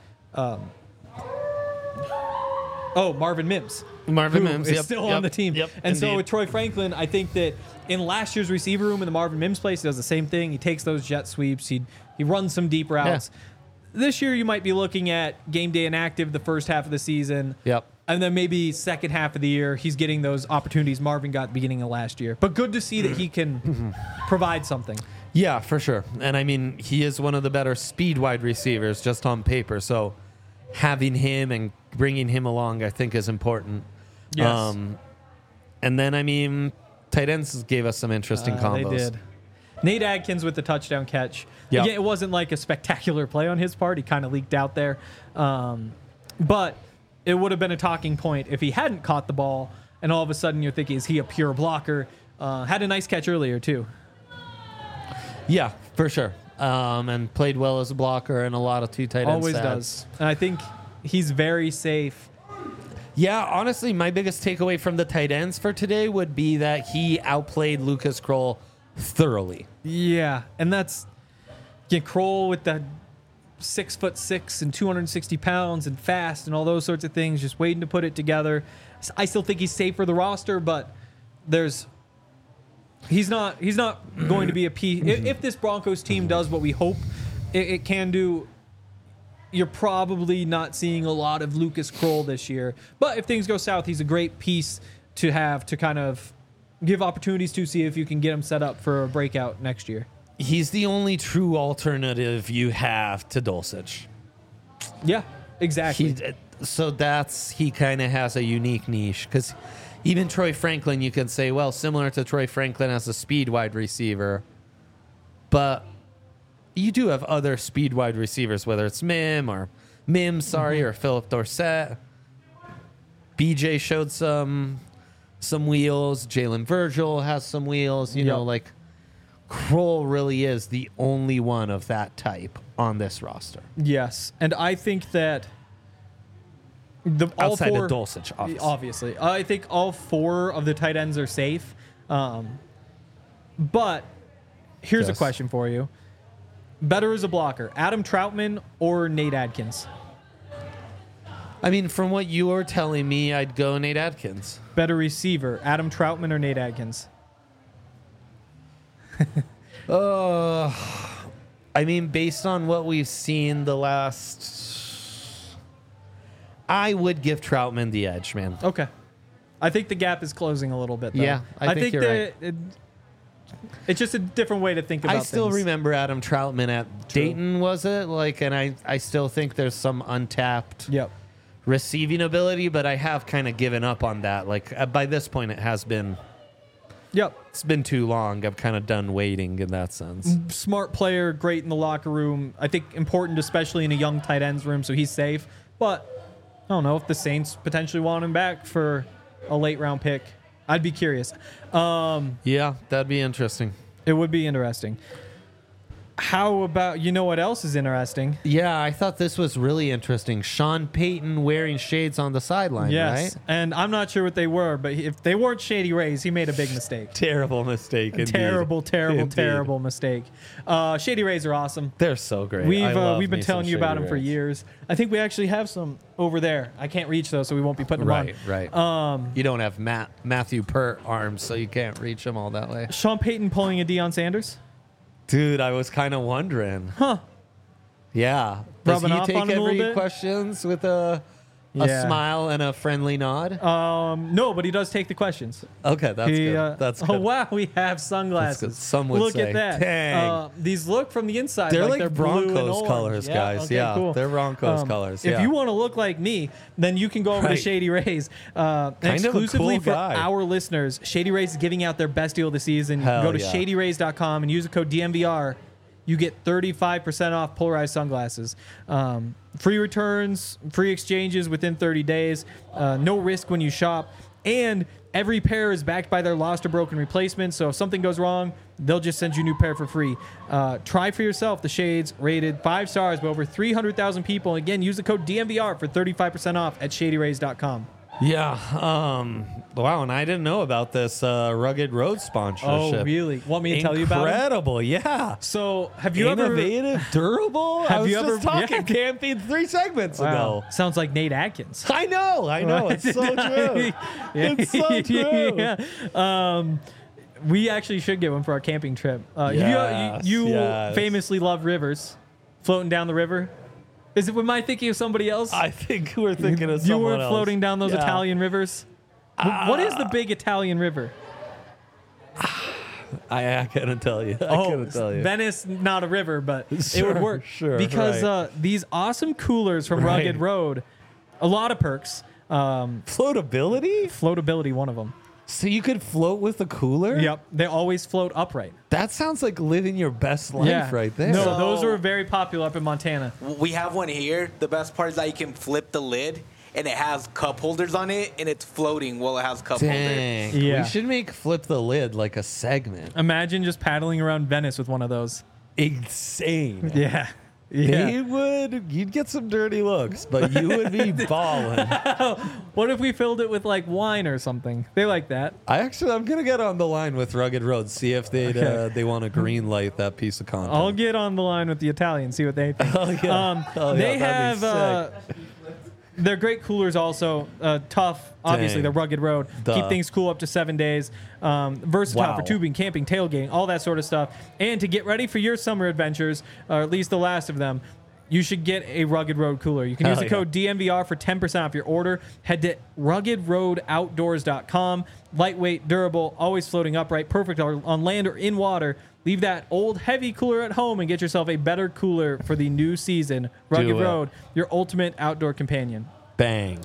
Marvin Mims. Marvin who Mims is yep, still yep, on the team. Yep, And so indeed. with Troy Franklin, I think that in last year's receiver room in the Marvin Mims place, he does the same thing. He takes those jet sweeps. He runs some deep routes. This year, you might be looking at game day inactive the first half of the season. Yep. And then maybe second half of the year, he's getting those opportunities Marvin got at the beginning of last year. But good to see that he can provide something. Yeah, for sure. And I mean, he is one of the better speed wide receivers just on paper. So having him and bringing him along, I think, is important. Yes. And then, I mean, tight ends gave us some interesting combos. They did. Nate Adkins with the touchdown catch. Yep. Again, it wasn't like a spectacular play on his part. He kind of leaked out there. But it would have been a talking point if he hadn't caught the ball, and all of a sudden you're thinking, is he a pure blocker? Had a nice catch earlier, too. Yeah, for sure. And played well as a blocker and a lot of 2 tight end Always stats. does. And I think he's very safe. Yeah, honestly, my biggest takeaway from the tight ends for today would be that he outplayed Lucas Kroll thoroughly. Yeah, and that's Kroll with the 6'6" and 260 pounds and fast and all those sorts of things, just waiting to put it together. I still think he's safe for the roster, but he's not going to be a piece. If this Broncos team does what we hope it can do, you're probably not seeing a lot of Lucas Kroll this year. But if things go south, he's a great piece to have to kind of give opportunities to, see if you can get him set up for a breakout next year. He's the only true alternative you have to Dulcich. Yeah, exactly. He kind of has a unique niche, because even Troy Franklin, you can say, well, similar to Troy Franklin as a speed wide receiver, but you do have other speed wide receivers, whether it's Mims, or Philip Dorsett. BJ showed some wheels. Jalen Virgil has some wheels. You know, like Kroll really is the only one of that type on this roster. Yes, and I think that Outside of Dulcich, obviously. I think all 4 of the tight ends are safe. But here's a Yes. question for you. Better as a blocker, Adam Troutman or Nate Adkins? I mean, from what you were telling me, I'd go Nate Adkins. Better receiver, Adam Troutman or Nate Adkins? I mean, based on what we've seen the last, I would give Troutman the edge, man. Okay. I think the gap is closing a little bit, though. Yeah, I think you're that it's just a different way to think about I still things. remember Adam Troutman at Dayton, was it? And I still think there's some untapped Yep. receiving ability, but I have kind of given up on that. By this point, it has been Yep. It's been too long. I've kind of done waiting in that sense. Smart player, great in the locker room. I think important, especially in a young tight ends room, so he's safe. But I don't know if the Saints potentially want him back for a late round pick. I'd be curious. Yeah, that'd be interesting. It would be interesting. How about, you know what else is interesting? Yeah, I thought this was really interesting. Sean Payton wearing shades on the sideline, Yes. right? And I'm not sure what they were, but if they weren't Shady Rays, he made a big mistake. Terrible mistake. Indeed. Terrible Indeed. mistake. Shady Rays are awesome. They're so great. I love We've been me some telling you about Shady them for Rays. years. I think we actually have some over there. I can't reach those, so we won't be putting them Right. on. You don't have Matthew Pert arms, so you can't reach them all that way. Sean Payton pulling a Deion Sanders. Dude, I was kind of wondering. Huh. Yeah. Does Rubbing he off take on him a little every bit? questions with a Yeah. smile and a friendly nod? No, but he does take the questions. Okay, that's good. That's good. Oh wow, we have sunglasses. That's good. Some would Look say, at that. dang. These look from the inside. They're like like blue and Broncos orange. colors, guys. Okay, Yeah, cool. they're Broncos colors. If Yeah. you want to look like me, then you can go over to Right. Shady Rays. Kind of a Exclusively cool for guy. our listeners, Shady Rays is giving out their best deal of the season. Hell Go to yeah. shadyrays.com and use the code DMVR. You get 35% off polarized sunglasses. Free returns, free exchanges within 30 days. No risk when you shop. And every pair is backed by their lost or broken replacement. So if something goes wrong, they'll just send you a new pair for free. Try for yourself the shades rated 5 stars by over 300,000 people. Again, use the code DMVR for 35% off at shadyrays.com. Yeah. Wow, and I didn't know about this Rugged Road sponsorship. Oh, really? Want me to tell you about it? Incredible, yeah. So have you ever... Innovative, durable. I Have was you just ever- talking yeah. camping 3 segments Wow. ago. Sounds like Nate Atkins. I know. It's so true. It's so true. Yeah. We actually should get one for our camping trip. Yes, you yes. famously love rivers, floating down the river. Am I thinking of somebody else? I think we're thinking of you someone were else. floating down those Yeah. Italian rivers. What is the big Italian river? I couldn't tell you. I couldn't tell you. Venice, not a river, but it Sure, would work. sure, Because right. these awesome coolers from Right. Rugged Road, a lot of perks. Floatability? Floatability, one of them. So you could float with a cooler? Yep, they always float upright. That sounds like living your best life right there. No, So- those are very popular up in Montana. We have one here. The best part is that you can flip the lid, and it has cup holders on it, and it's floating while it has cup holders. Dang. Yeah. We should make Flip the Lid like a segment. Imagine just paddling around Venice with one of those. Insane. Yeah. You'd get some dirty looks, but you would be balling. What if we filled it with like wine or something? They like that. I'm going to get on the line with Rugged Road, see if Okay. they want to green light that piece of content. I'll get on the line with the Italians, see what they think. Oh, yeah. They that'd be have they're great coolers also. Tough, obviously, Dang. the Rugged Road. Duh. Keep things cool up to 7 days. Versatile Wow. for tubing, camping, tailgating, all that sort of stuff. And to get ready for your summer adventures, or at least the last of them, you should get a Rugged Road cooler. You can use Hell the code DMVR for 10% off your order. Head to ruggedroadoutdoors.com. Lightweight, durable, always floating upright, perfect on land or in water. Leave that old heavy cooler at home and get yourself a better cooler for the new season. Rugged it. Road, your ultimate outdoor companion. Bang.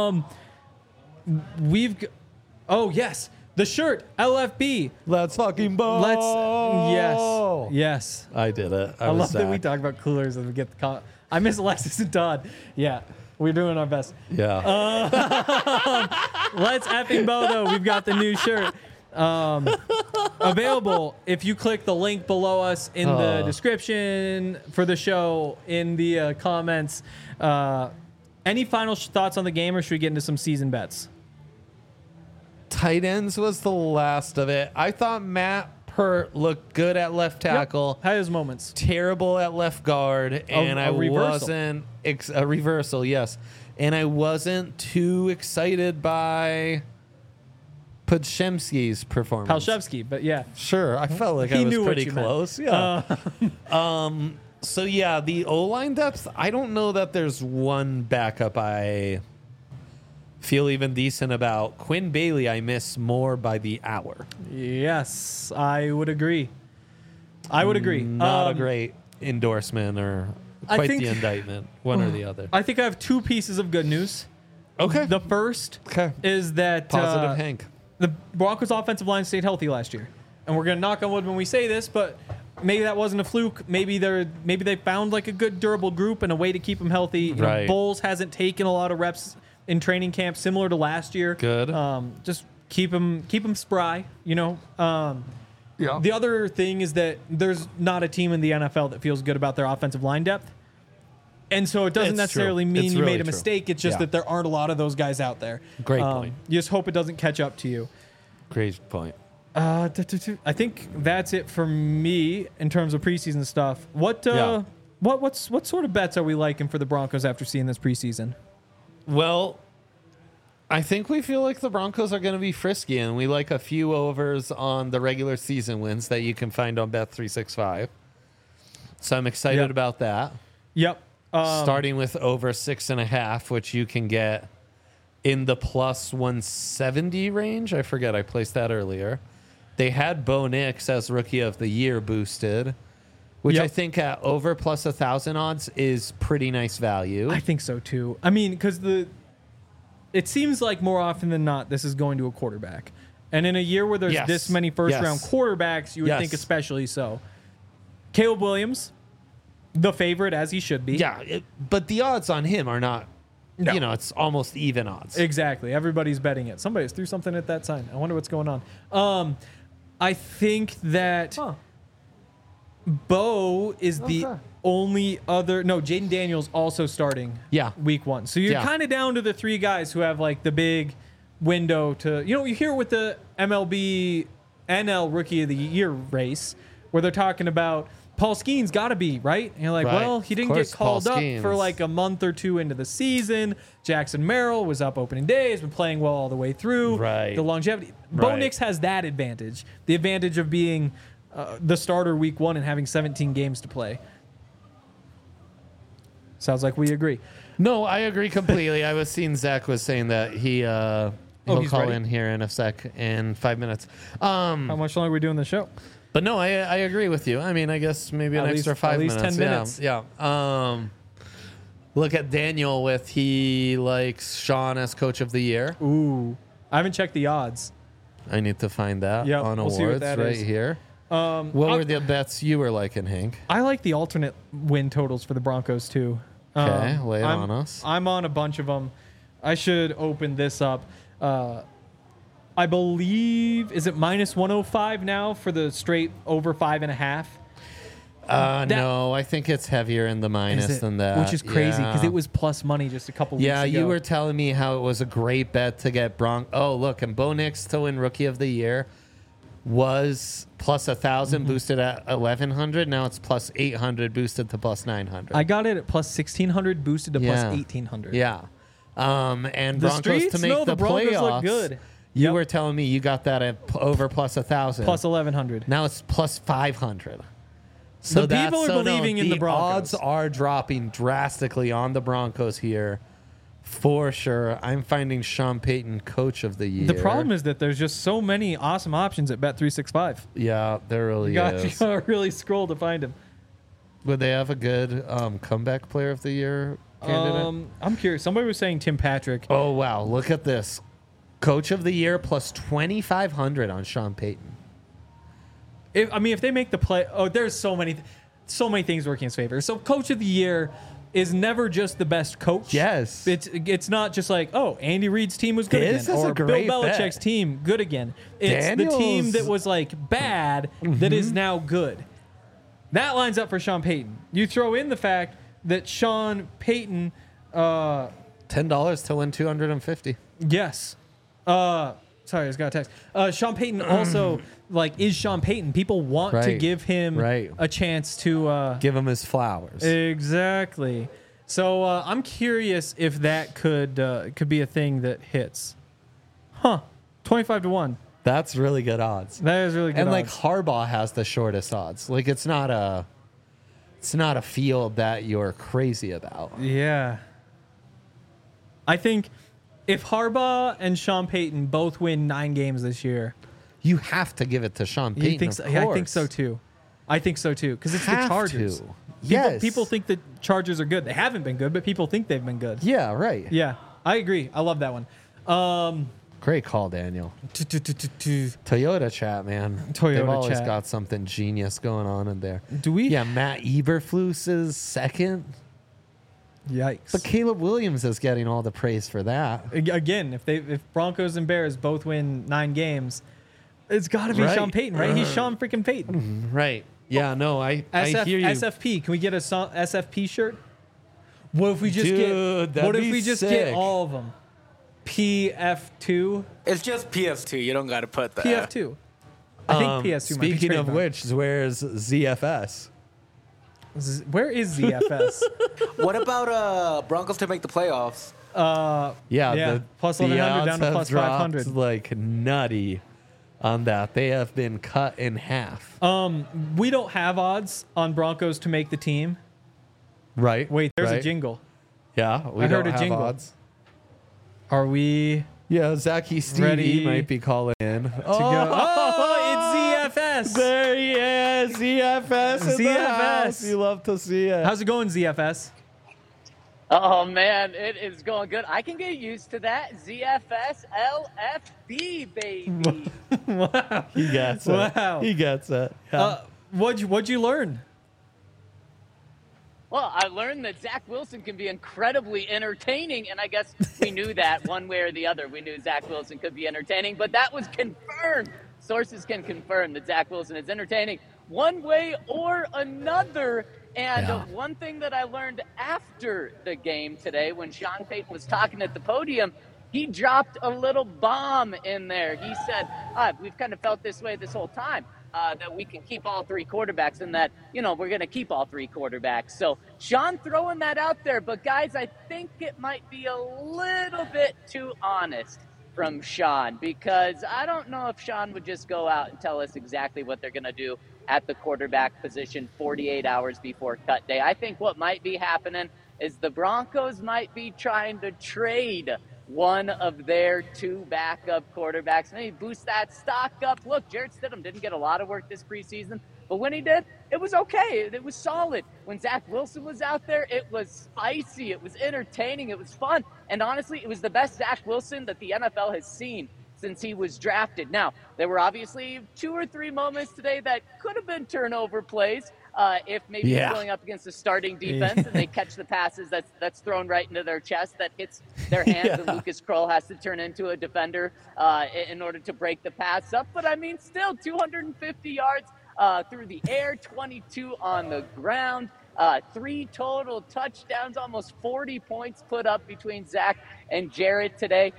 Oh yes, the shirt LFB. Let's fucking ball. Yes. I did it. I love that we talk about coolers and we get the call. I miss Alexis and Todd. Yeah, we're doing our best. Yeah. Let's effing bo though. We've got the new shirt. Available if you click the link below us in the description for the show, in the comments. Any final thoughts on the game, or should we get into some season bets? Tight ends was the last of it. I thought Matt Pert looked good at left tackle. Had his moments. Terrible at left guard, and I reversal. wasn't a reversal, yes, and I wasn't too excited by Podshemski's performance. Palshevsky, but yeah. Sure, I felt like He I was knew what pretty you meant. close. Yeah. So yeah, the O-line depth. I don't know that there's one backup I feel even decent about. Quinn Bailey, I miss more by the hour. Yes, I would agree. Not a great endorsement or I quite think- the indictment, one or the other. I think I have 2 pieces of good news. Okay. The first Okay. is that Positive Hank. the Broncos' offensive line stayed healthy last year, and we're gonna knock on wood when we say this, but maybe that wasn't a fluke. Maybe they found like a good durable group and a way to keep them healthy. You know, Right. Bowles hasn't taken a lot of reps in training camp, similar to last year. Good. Just keep them spry. You know. Yeah. The other thing is that there's not a team in the NFL that feels good about their offensive line depth. And so it doesn't It's necessarily true. mean It's you really made a true. mistake. It's just Yeah. that there aren't a lot of those guys out there. Great point. You just hope it doesn't catch up to you. Great point. I think that's it for me in terms of preseason stuff. What sort of bets are we liking for the Broncos after seeing this preseason? Well, I think we feel like the Broncos are going to be frisky, and we like a few overs on the regular season wins that you can find on Bet365. So I'm excited Yep. about that. Yep. Starting with over 6.5, which you can get in the plus 170 range. I forget, I placed that earlier. They had Bo Nix as Rookie of the Year boosted, which Yep. I think at over plus 1,000 odds is pretty nice value. I think so too. I mean, because it seems like more often than not, this is going to a quarterback. And in a year where there's Yes. this many first-round Yes. quarterbacks, you would Yes. think especially so. Caleb Williams, the favorite, as he should be. Yeah, but the odds on him are not, No. you know, it's almost even odds. Exactly. Everybody's betting it. Somebody just threw something at that sign. I wonder what's going on. I think that Bo is the only other. No, Jaden Daniels also starting. Yeah. Week 1. So you're Yeah. kind of down to the 3 guys who have like the big window to. You know, you hear with the MLB NL Rookie of the Year race where they're talking about Paul Skeens got to be, right? And you're like, Right. well, he Of didn't course, get called Paul up Skeens. for like a month or 2 into the season. Jackson Merrill was up opening day, has been playing well all the way through. Right. The longevity. Bo Right. Nix has that advantage. The advantage of being the starter week 1 and having 17 games to play. Sounds like we agree. No, I agree completely. I was seeing Zach was saying that he'll he's call ready? in here in a sec, in 5 minutes. How much longer are we doing the show? But no, I agree with you. I mean, I guess maybe an At extra least- 5 at least minutes. 10 minutes. Yeah. Look at Daniel with he likes Sean as Coach of the Year. Ooh. I haven't checked the odds. I need to find that Yep, on we'll see what awards that right is. here. What I'll- were the bets you were liking, Hank? I like the alternate win totals for the Broncos too. Okay, lay it I'm- on us. I'm on a bunch of them. I should open this up. I believe, is it minus 105 now for the straight over 5.5? No, I think it's heavier in the minus Is it? than that. Which is crazy because Yeah. it was plus money just a couple weeks Yeah, ago. you were telling me how it was a great bet to get Oh, look, and Bo Nix to win Rookie of the Year was plus 1,000 Mm-hmm. boosted at 1,100. Now it's plus 800 boosted to plus 900. I got it at plus 1,600 boosted to plus Yeah. 1,800. Yeah. And The Broncos streets? to make No, the the Broncos playoffs. look good. You Yep. were telling me you got that at over plus 1,000. Plus 1,100. Now it's plus 500. So The people are believing in the Broncos. odds are dropping drastically on the Broncos here, for sure. I'm finding Sean Payton Coach of the Year. The problem is that there's just so many awesome options at Bet365. yeah, there really You got is. to really scroll to find him. Would they have a good comeback player of the year candidate? I'm curious. Somebody was saying Tim Patrick. Oh wow, look at this. Coach of the Year plus 2,500 on Sean Payton. If they make the play, there's so many things working in his favor. So Coach of the Year is never just the best coach. Yes. It's not just like, Andy Reid's team was good This again, is a or Bill great Belichick's bet. team good again. It's the team Daniels- Mm-hmm. that was like bad that is now good. That lines up for Sean Payton. You throw in the fact that Sean Payton, $10 to win 250. yes. Sorry, I just got a text. Sean Payton also is Sean Payton. People want to Right. give him Right. a chance to Give him his flowers. exactly. So I'm curious if that could be a thing that hits. 25 to 1. That's really good odds. That is really good. And odds. Harbaugh has the shortest odds. Like it's not a field that you're crazy about. Yeah. I think if Harbaugh and Sean Payton both win 9 games this year, You have to give it to Sean Payton. you think so? of Yeah, I course. think so too. I think so too because it's the Have Chargers. to. People, Yes. people think the Chargers are good. They haven't been good, but people think they've been good. Yeah, right. Yeah, I agree. I love that one. Great call, Daniel. Do Toyota chat, man. Toyota They've always chat. got something genius going on in there. we? Yeah, Matt Eberflus is second, Yikes. but Caleb Williams is getting all the praise for that. Again, if Broncos and Bears both win 9 games, it's got to be Right. Sean Payton, right? He's Sean freaking Payton. Right. Yeah, no, I hear you. SFP. Can we get a SFP shirt? What if we just Dude, get? What that'd if be we just sick. get all of them? PF2. It's just PS2. You don't got to put that. PF2. I think PS2 might be Speaking of trademarked. which, where's ZFS? Where is ZFS? What about Broncos to make the playoffs? Yeah, Yeah, plus 1100 odds down to have plus dropped 500. like nutty on that. They have been cut in half. We don't have odds on Broncos to make the team. Right. Wait, there's a right. jingle. Yeah, we I heard don't a have jingle. odds. Are we Yeah, Zachy Stevie Ready might be calling in. to go? Oh, it's ZFS. There he is. ZFS in the ZFS. house. You love to see it. How's it going, ZFS? Oh man, it is going good. I can get used to that. ZFS LFB, baby. Wow. He gets it. Wow. He gets it. Yeah. What'd you learn? Well, I learned that Zach Wilson can be incredibly entertaining, and I guess we knew that one way or the other. We knew Zach Wilson could be entertaining, but that was confirmed. Sources can confirm that Zach Wilson is entertaining one way or another. And Yeah. one thing that I learned after the game today, when Sean Payton was talking at the podium, he dropped a little bomb in there. He said, we've kind of felt this way this whole time, that we can keep all 3 quarterbacks and that, we're going to keep all 3 quarterbacks. So Sean throwing that out there. But, guys, I think it might be a little bit too honest from Sean, because I don't know if Sean would just go out and tell us exactly what they're going to do at the quarterback position 48 hours before cut day. I think what might be happening is the Broncos might be trying to trade one of their 2 backup quarterbacks. Maybe boost that stock up. Look, Jarrett Stidham didn't get a lot of work this preseason, but when he did, it was okay. It was solid. When Zach Wilson was out there, it was spicy. It was entertaining. It was fun. And honestly, it was the best Zach Wilson that the NFL has seen since he was drafted. Now, there were obviously 2 or 3 moments today that could have been turnover plays. If maybe Yeah. you're going up against a starting defense and they catch the passes that's thrown right into their chest that hits their hands, and Lucas Kroll has to turn into a defender in order to break the pass up. But I mean, still 250 yards through the air, 22 on the ground, 3 total touchdowns, almost 40 points put up between Zach and Jared today.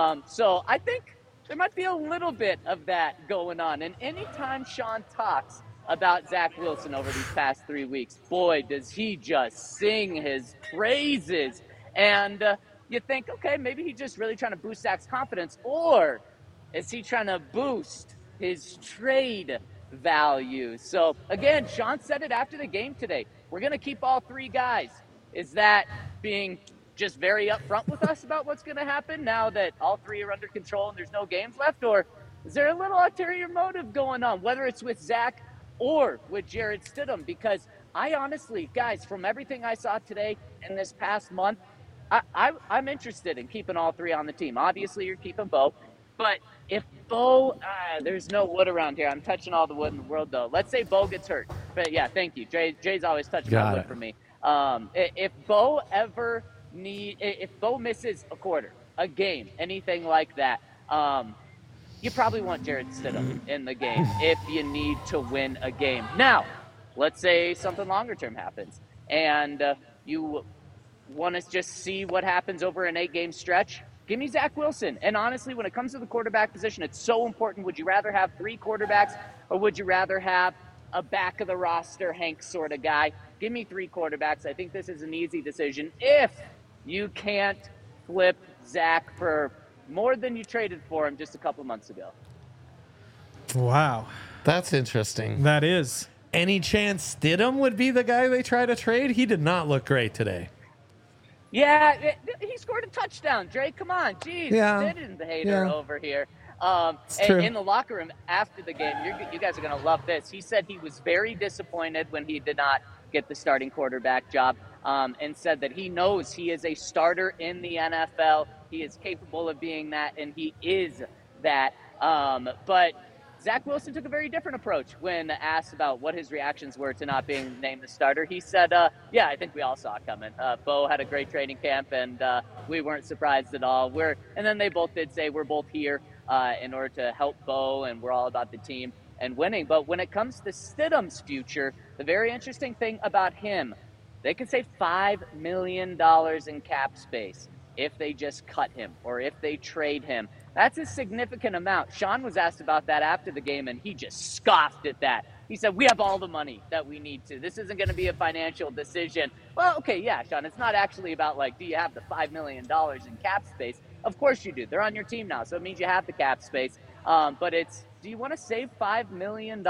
So I think there might be a little bit of that going on. And anytime Sean talks about Zach Wilson over these past 3 weeks, boy, does he just sing his praises. And you think, okay, maybe he's just really trying to boost Zach's confidence, or is he trying to boost his trade value? So again, Sean said it after the game today. We're going to keep all 3 guys. Is that being just very upfront with us about what's going to happen now that all 3 are under control and there's no games left? Or is there a little ulterior motive going on, whether it's with Zach or with Jarrett Stidham? Because I honestly, guys, from everything I saw today and this past month, I'm interested in keeping all 3 on the team. Obviously, you're keeping Bo. But if Bo, there's no wood around here. I'm touching all the wood in the world, though. Let's say Bo gets hurt. But yeah, thank you. Jay's always touching Got my wood it. for me. If Bo if Bo misses a quarter, a game, anything like that, you probably want Jarrett Stidham in the game if you need to win a game. Now, let's say something longer term happens and you want to just see what happens over an 8-game stretch. Give me Zach Wilson. And honestly, when it comes to the quarterback position, it's so important. Would you rather have 3 quarterbacks, or would you rather have a back of the roster Hank sort of guy? Give me 3 quarterbacks. I think this is an easy decision if you can't flip Zach for more than you traded for him just a couple months ago. Wow. That's interesting. That is. Any chance Stidham would be the guy they try to trade? He did not look great today. Yeah, he scored a touchdown. Drake, come on. Jeez, Yeah. Sid is the hater Yeah. over here. true. In the locker room after the game, you guys are going to love this. He said he was very disappointed when he did not get the starting quarterback job, and said that he knows he is a starter in the NFL. He is capable of being that, and he is that. But Zach Wilson took a very different approach when asked about what his reactions were to not being named the starter. He said, yeah, I think we all saw it coming. Bo had a great training camp, and we weren't surprised at all. And then they both did say we're both here in order to help Bo, and we're all about the team and winning. But when it comes to Stidham's future, the very interesting thing about him, they could save $5 million in cap space if they just cut him or if they trade him. That's a significant amount. Sean was asked about that after the game, and he just scoffed at that. He said, we have all the money that we need to. This isn't going to be a financial decision. Well, okay, yeah, Sean, it's not actually about, like, do you have the $5 million in cap space? Of course you do. They're on your team now, so it means you have the cap space. But it's, do you want to save $5 million?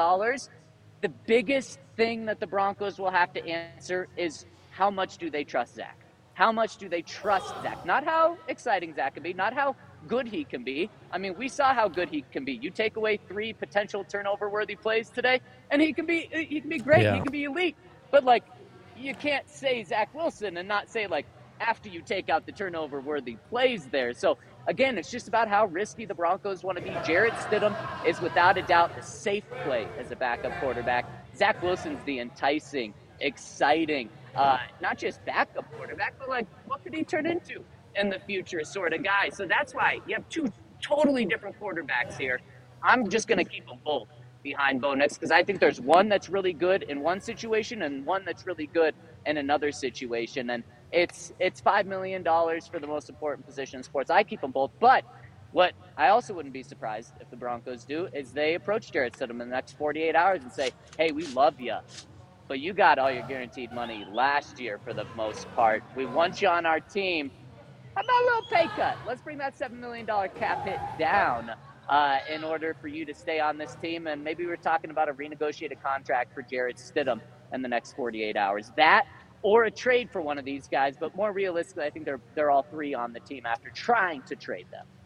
The biggest thing that the Broncos will have to answer is how much do they trust Zach? How much do they trust Zach? Not how exciting Zach can be, not how good he can be. I mean, we saw how good he can be. You take away 3 potential turnover-worthy plays today, and he can be great. Yeah. He can be elite. But, like, you can't say Zach Wilson and not say, like, after you take out the turnover-worthy plays there. So, again, it's just about how risky the Broncos want to be. Jarrett Stidham is without a doubt the safe play as a backup quarterback. Zach Wilson's the enticing, exciting, not just backup quarterback, but, like, what could he turn into in the future sort of guy? So that's why you have 2 totally different quarterbacks here. I'm just going to keep them both behind Bo Nix because I think there's one that's really good in one situation and one that's really good in another situation. And it's $5 million for the most important position in sports. I keep them both. But what I also wouldn't be surprised if the Broncos do is they approach Jarrett Stidham in the next 48 hours and say, hey, we love you, but you got all your guaranteed money last year for the most part. We want you on our team. How about a little pay cut? Let's bring that $7 million cap hit down in order for you to stay on this team. And maybe we're talking about a renegotiated contract for Jarrett Stidham in the next 48 hours. That or a trade for one of these guys. But more realistically, I think they're all 3 on the team after trying to trade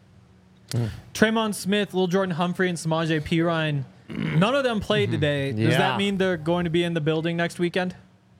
them. Traymon Smith, Lil Jordan Humphrey, and Samaje Perine, none of them played today. Does Yeah. that mean they're going to be in the building next weekend?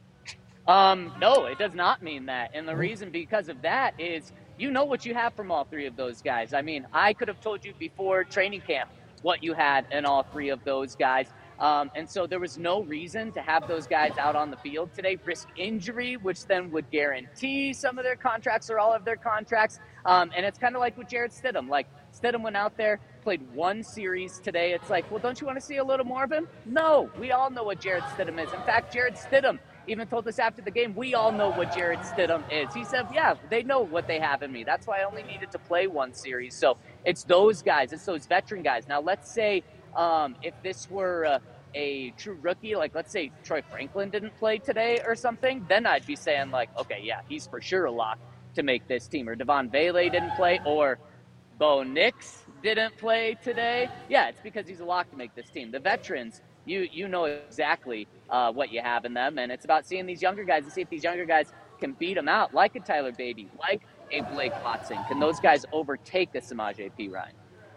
No, it does not mean that. And the reason because of that is you know what you have from all 3 of those guys. I mean, I could have told you before training camp what you had in all 3 of those guys. And so there was no reason to have those guys out on the field today, risk injury, which then would guarantee some of their contracts or all of their contracts. And it's kind of like with Jarrett Stidham. Like, Stidham went out there, played 1 series today. It's like, well, don't you want to see a little more of him? No, we all know what Jarrett Stidham is. In fact, Jarrett Stidham even told us after the game, we all know what Jarrett Stidham is. He said, yeah, they know what they have in me. That's why I only needed to play 1 series. So it's those guys. It's those veteran guys. Now, let's say if this were a true rookie, like let's say Troy Franklin didn't play today or something, then I'd be saying like, okay, yeah, he's for sure a lock to make this team. Or Devon Vele didn't play, or Bo Nix didn't play today. Yeah, it's because he's a lock to make this team. The veterans, you know exactly what you have in them, and it's about seeing these younger guys and see if these younger guys can beat them out, like a Tyler Beatty, like a Blake Watson. Can those guys overtake a Samaje Perine?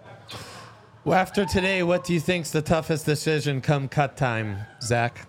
Well, after today, what do you think's the toughest decision come cut time, Zach?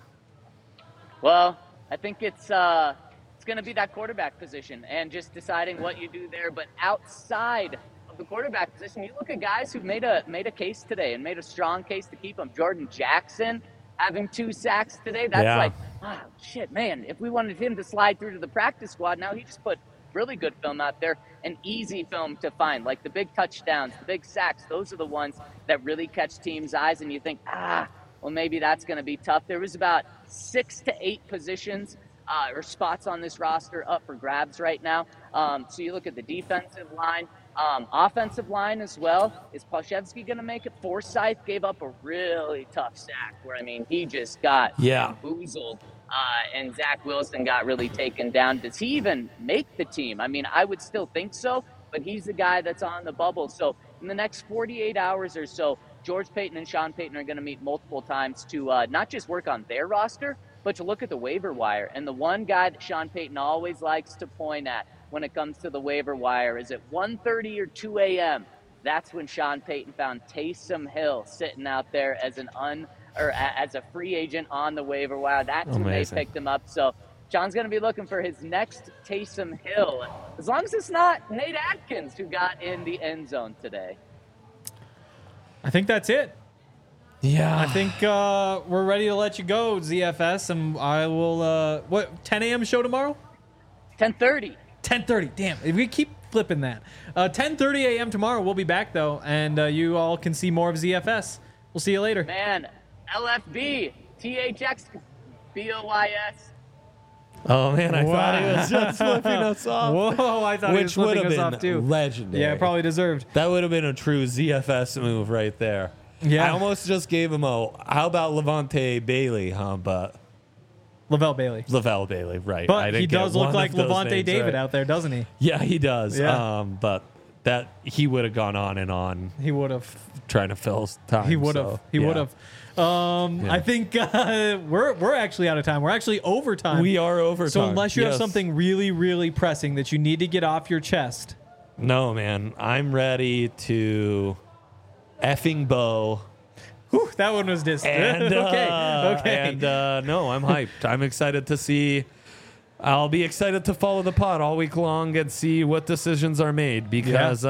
Well, I think it's going to be that quarterback position and just deciding what you do there. But outside of the quarterback position, you look at guys who've made a case today and made a strong case to keep them. Jordan Jackson having 2 sacks today. That's like, oh, shit, man. If we wanted him to slide through to the practice squad, now he just put really good film out there, an easy film to find, like the big touchdowns, the big sacks. Those are the ones that really catch teams' eyes, and you think, well, maybe that's going to be tough. There was about 6 to 8 positions or spots on this roster up for grabs right now. So you look at the defensive line, offensive line as well. Is Palshevsky going to make it? Forsythe gave up a really tough sack where, I mean, he just got bamboozled. And Zach Wilson got really taken down. Does he even make the team? I mean, I would still think so, but he's the guy that's on the bubble. So in the next 48 hours or so, George Paton and Sean Payton are going to meet multiple times to not just work on their roster, but to look at the waiver wire. And the one guy that Sean Payton always likes to point at when it comes to the waiver wire is at 1:30 or 2 a.m. That's when Sean Payton found Taysom Hill sitting out there as as a free agent on the waiver wire. That's when they picked him up. So John's going to be looking for his next Taysom Hill, as long as it's not Nate Atkins who got in the end zone today. I think that's it. Yeah. I think we're ready to let you go, ZFS, and I will. 10 a.m. show tomorrow? 10:30. 10:30. Damn, if we keep flipping that. 10:30 a.m. tomorrow. We'll be back though, and you all can see more of ZFS. We'll see you later. Man, LFB, THX, BOYS. Oh man, I thought he was just flipping us off. Whoa, I thought he was Which would flipping have us been off too. legendary. Yeah, probably deserved. That would have been a true ZFS move right there. Yeah. I almost just gave him a, how about Levante Bailey, huh? But Lavelle Bailey. Lavelle Bailey, right. I But didn't he get does look one like of those Levante names David right. out there, doesn't he? Yeah, he does. Yeah. But that he would have gone on and on He would have. trying to fill time. He would have. so, He yeah. would have. I think we're actually out of time. We're actually overtime. We are overtime. So unless you have yes. something really, really pressing that you need to get off your chest, No, man. I'm ready to effing bow. whew, that one was distant. And, okay. And no, I'm hyped. I'm excited to see. I'll be excited to follow the pod all week long and see what decisions are made because,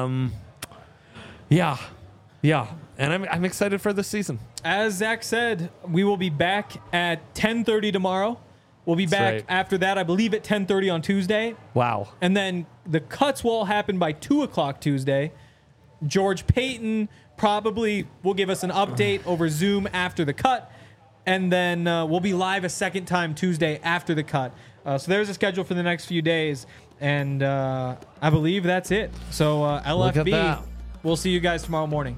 yeah. And I'm excited for this season. As Zach said, we will be back at 10:30 tomorrow. We'll be back right. after that, I believe, at 10:30 on Tuesday. Wow. And then the cuts will all happen by 2 o'clock Tuesday. George Payton probably will give us an update over Zoom after the cut. And then we'll be live a second time Tuesday after the cut. So there's a schedule for the next few days. And I believe that's it. So Look at LFB, that. we'll see you guys tomorrow morning.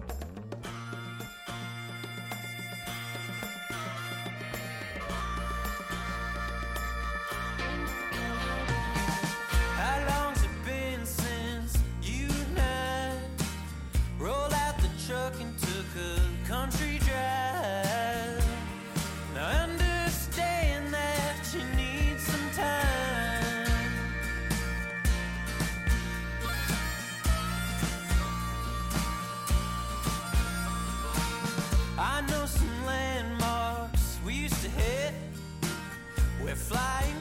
How long's it been since you and I rolled out the truck and took a country drive? Now I understand that you need some time. I know some landmarks we used to hit. We're flying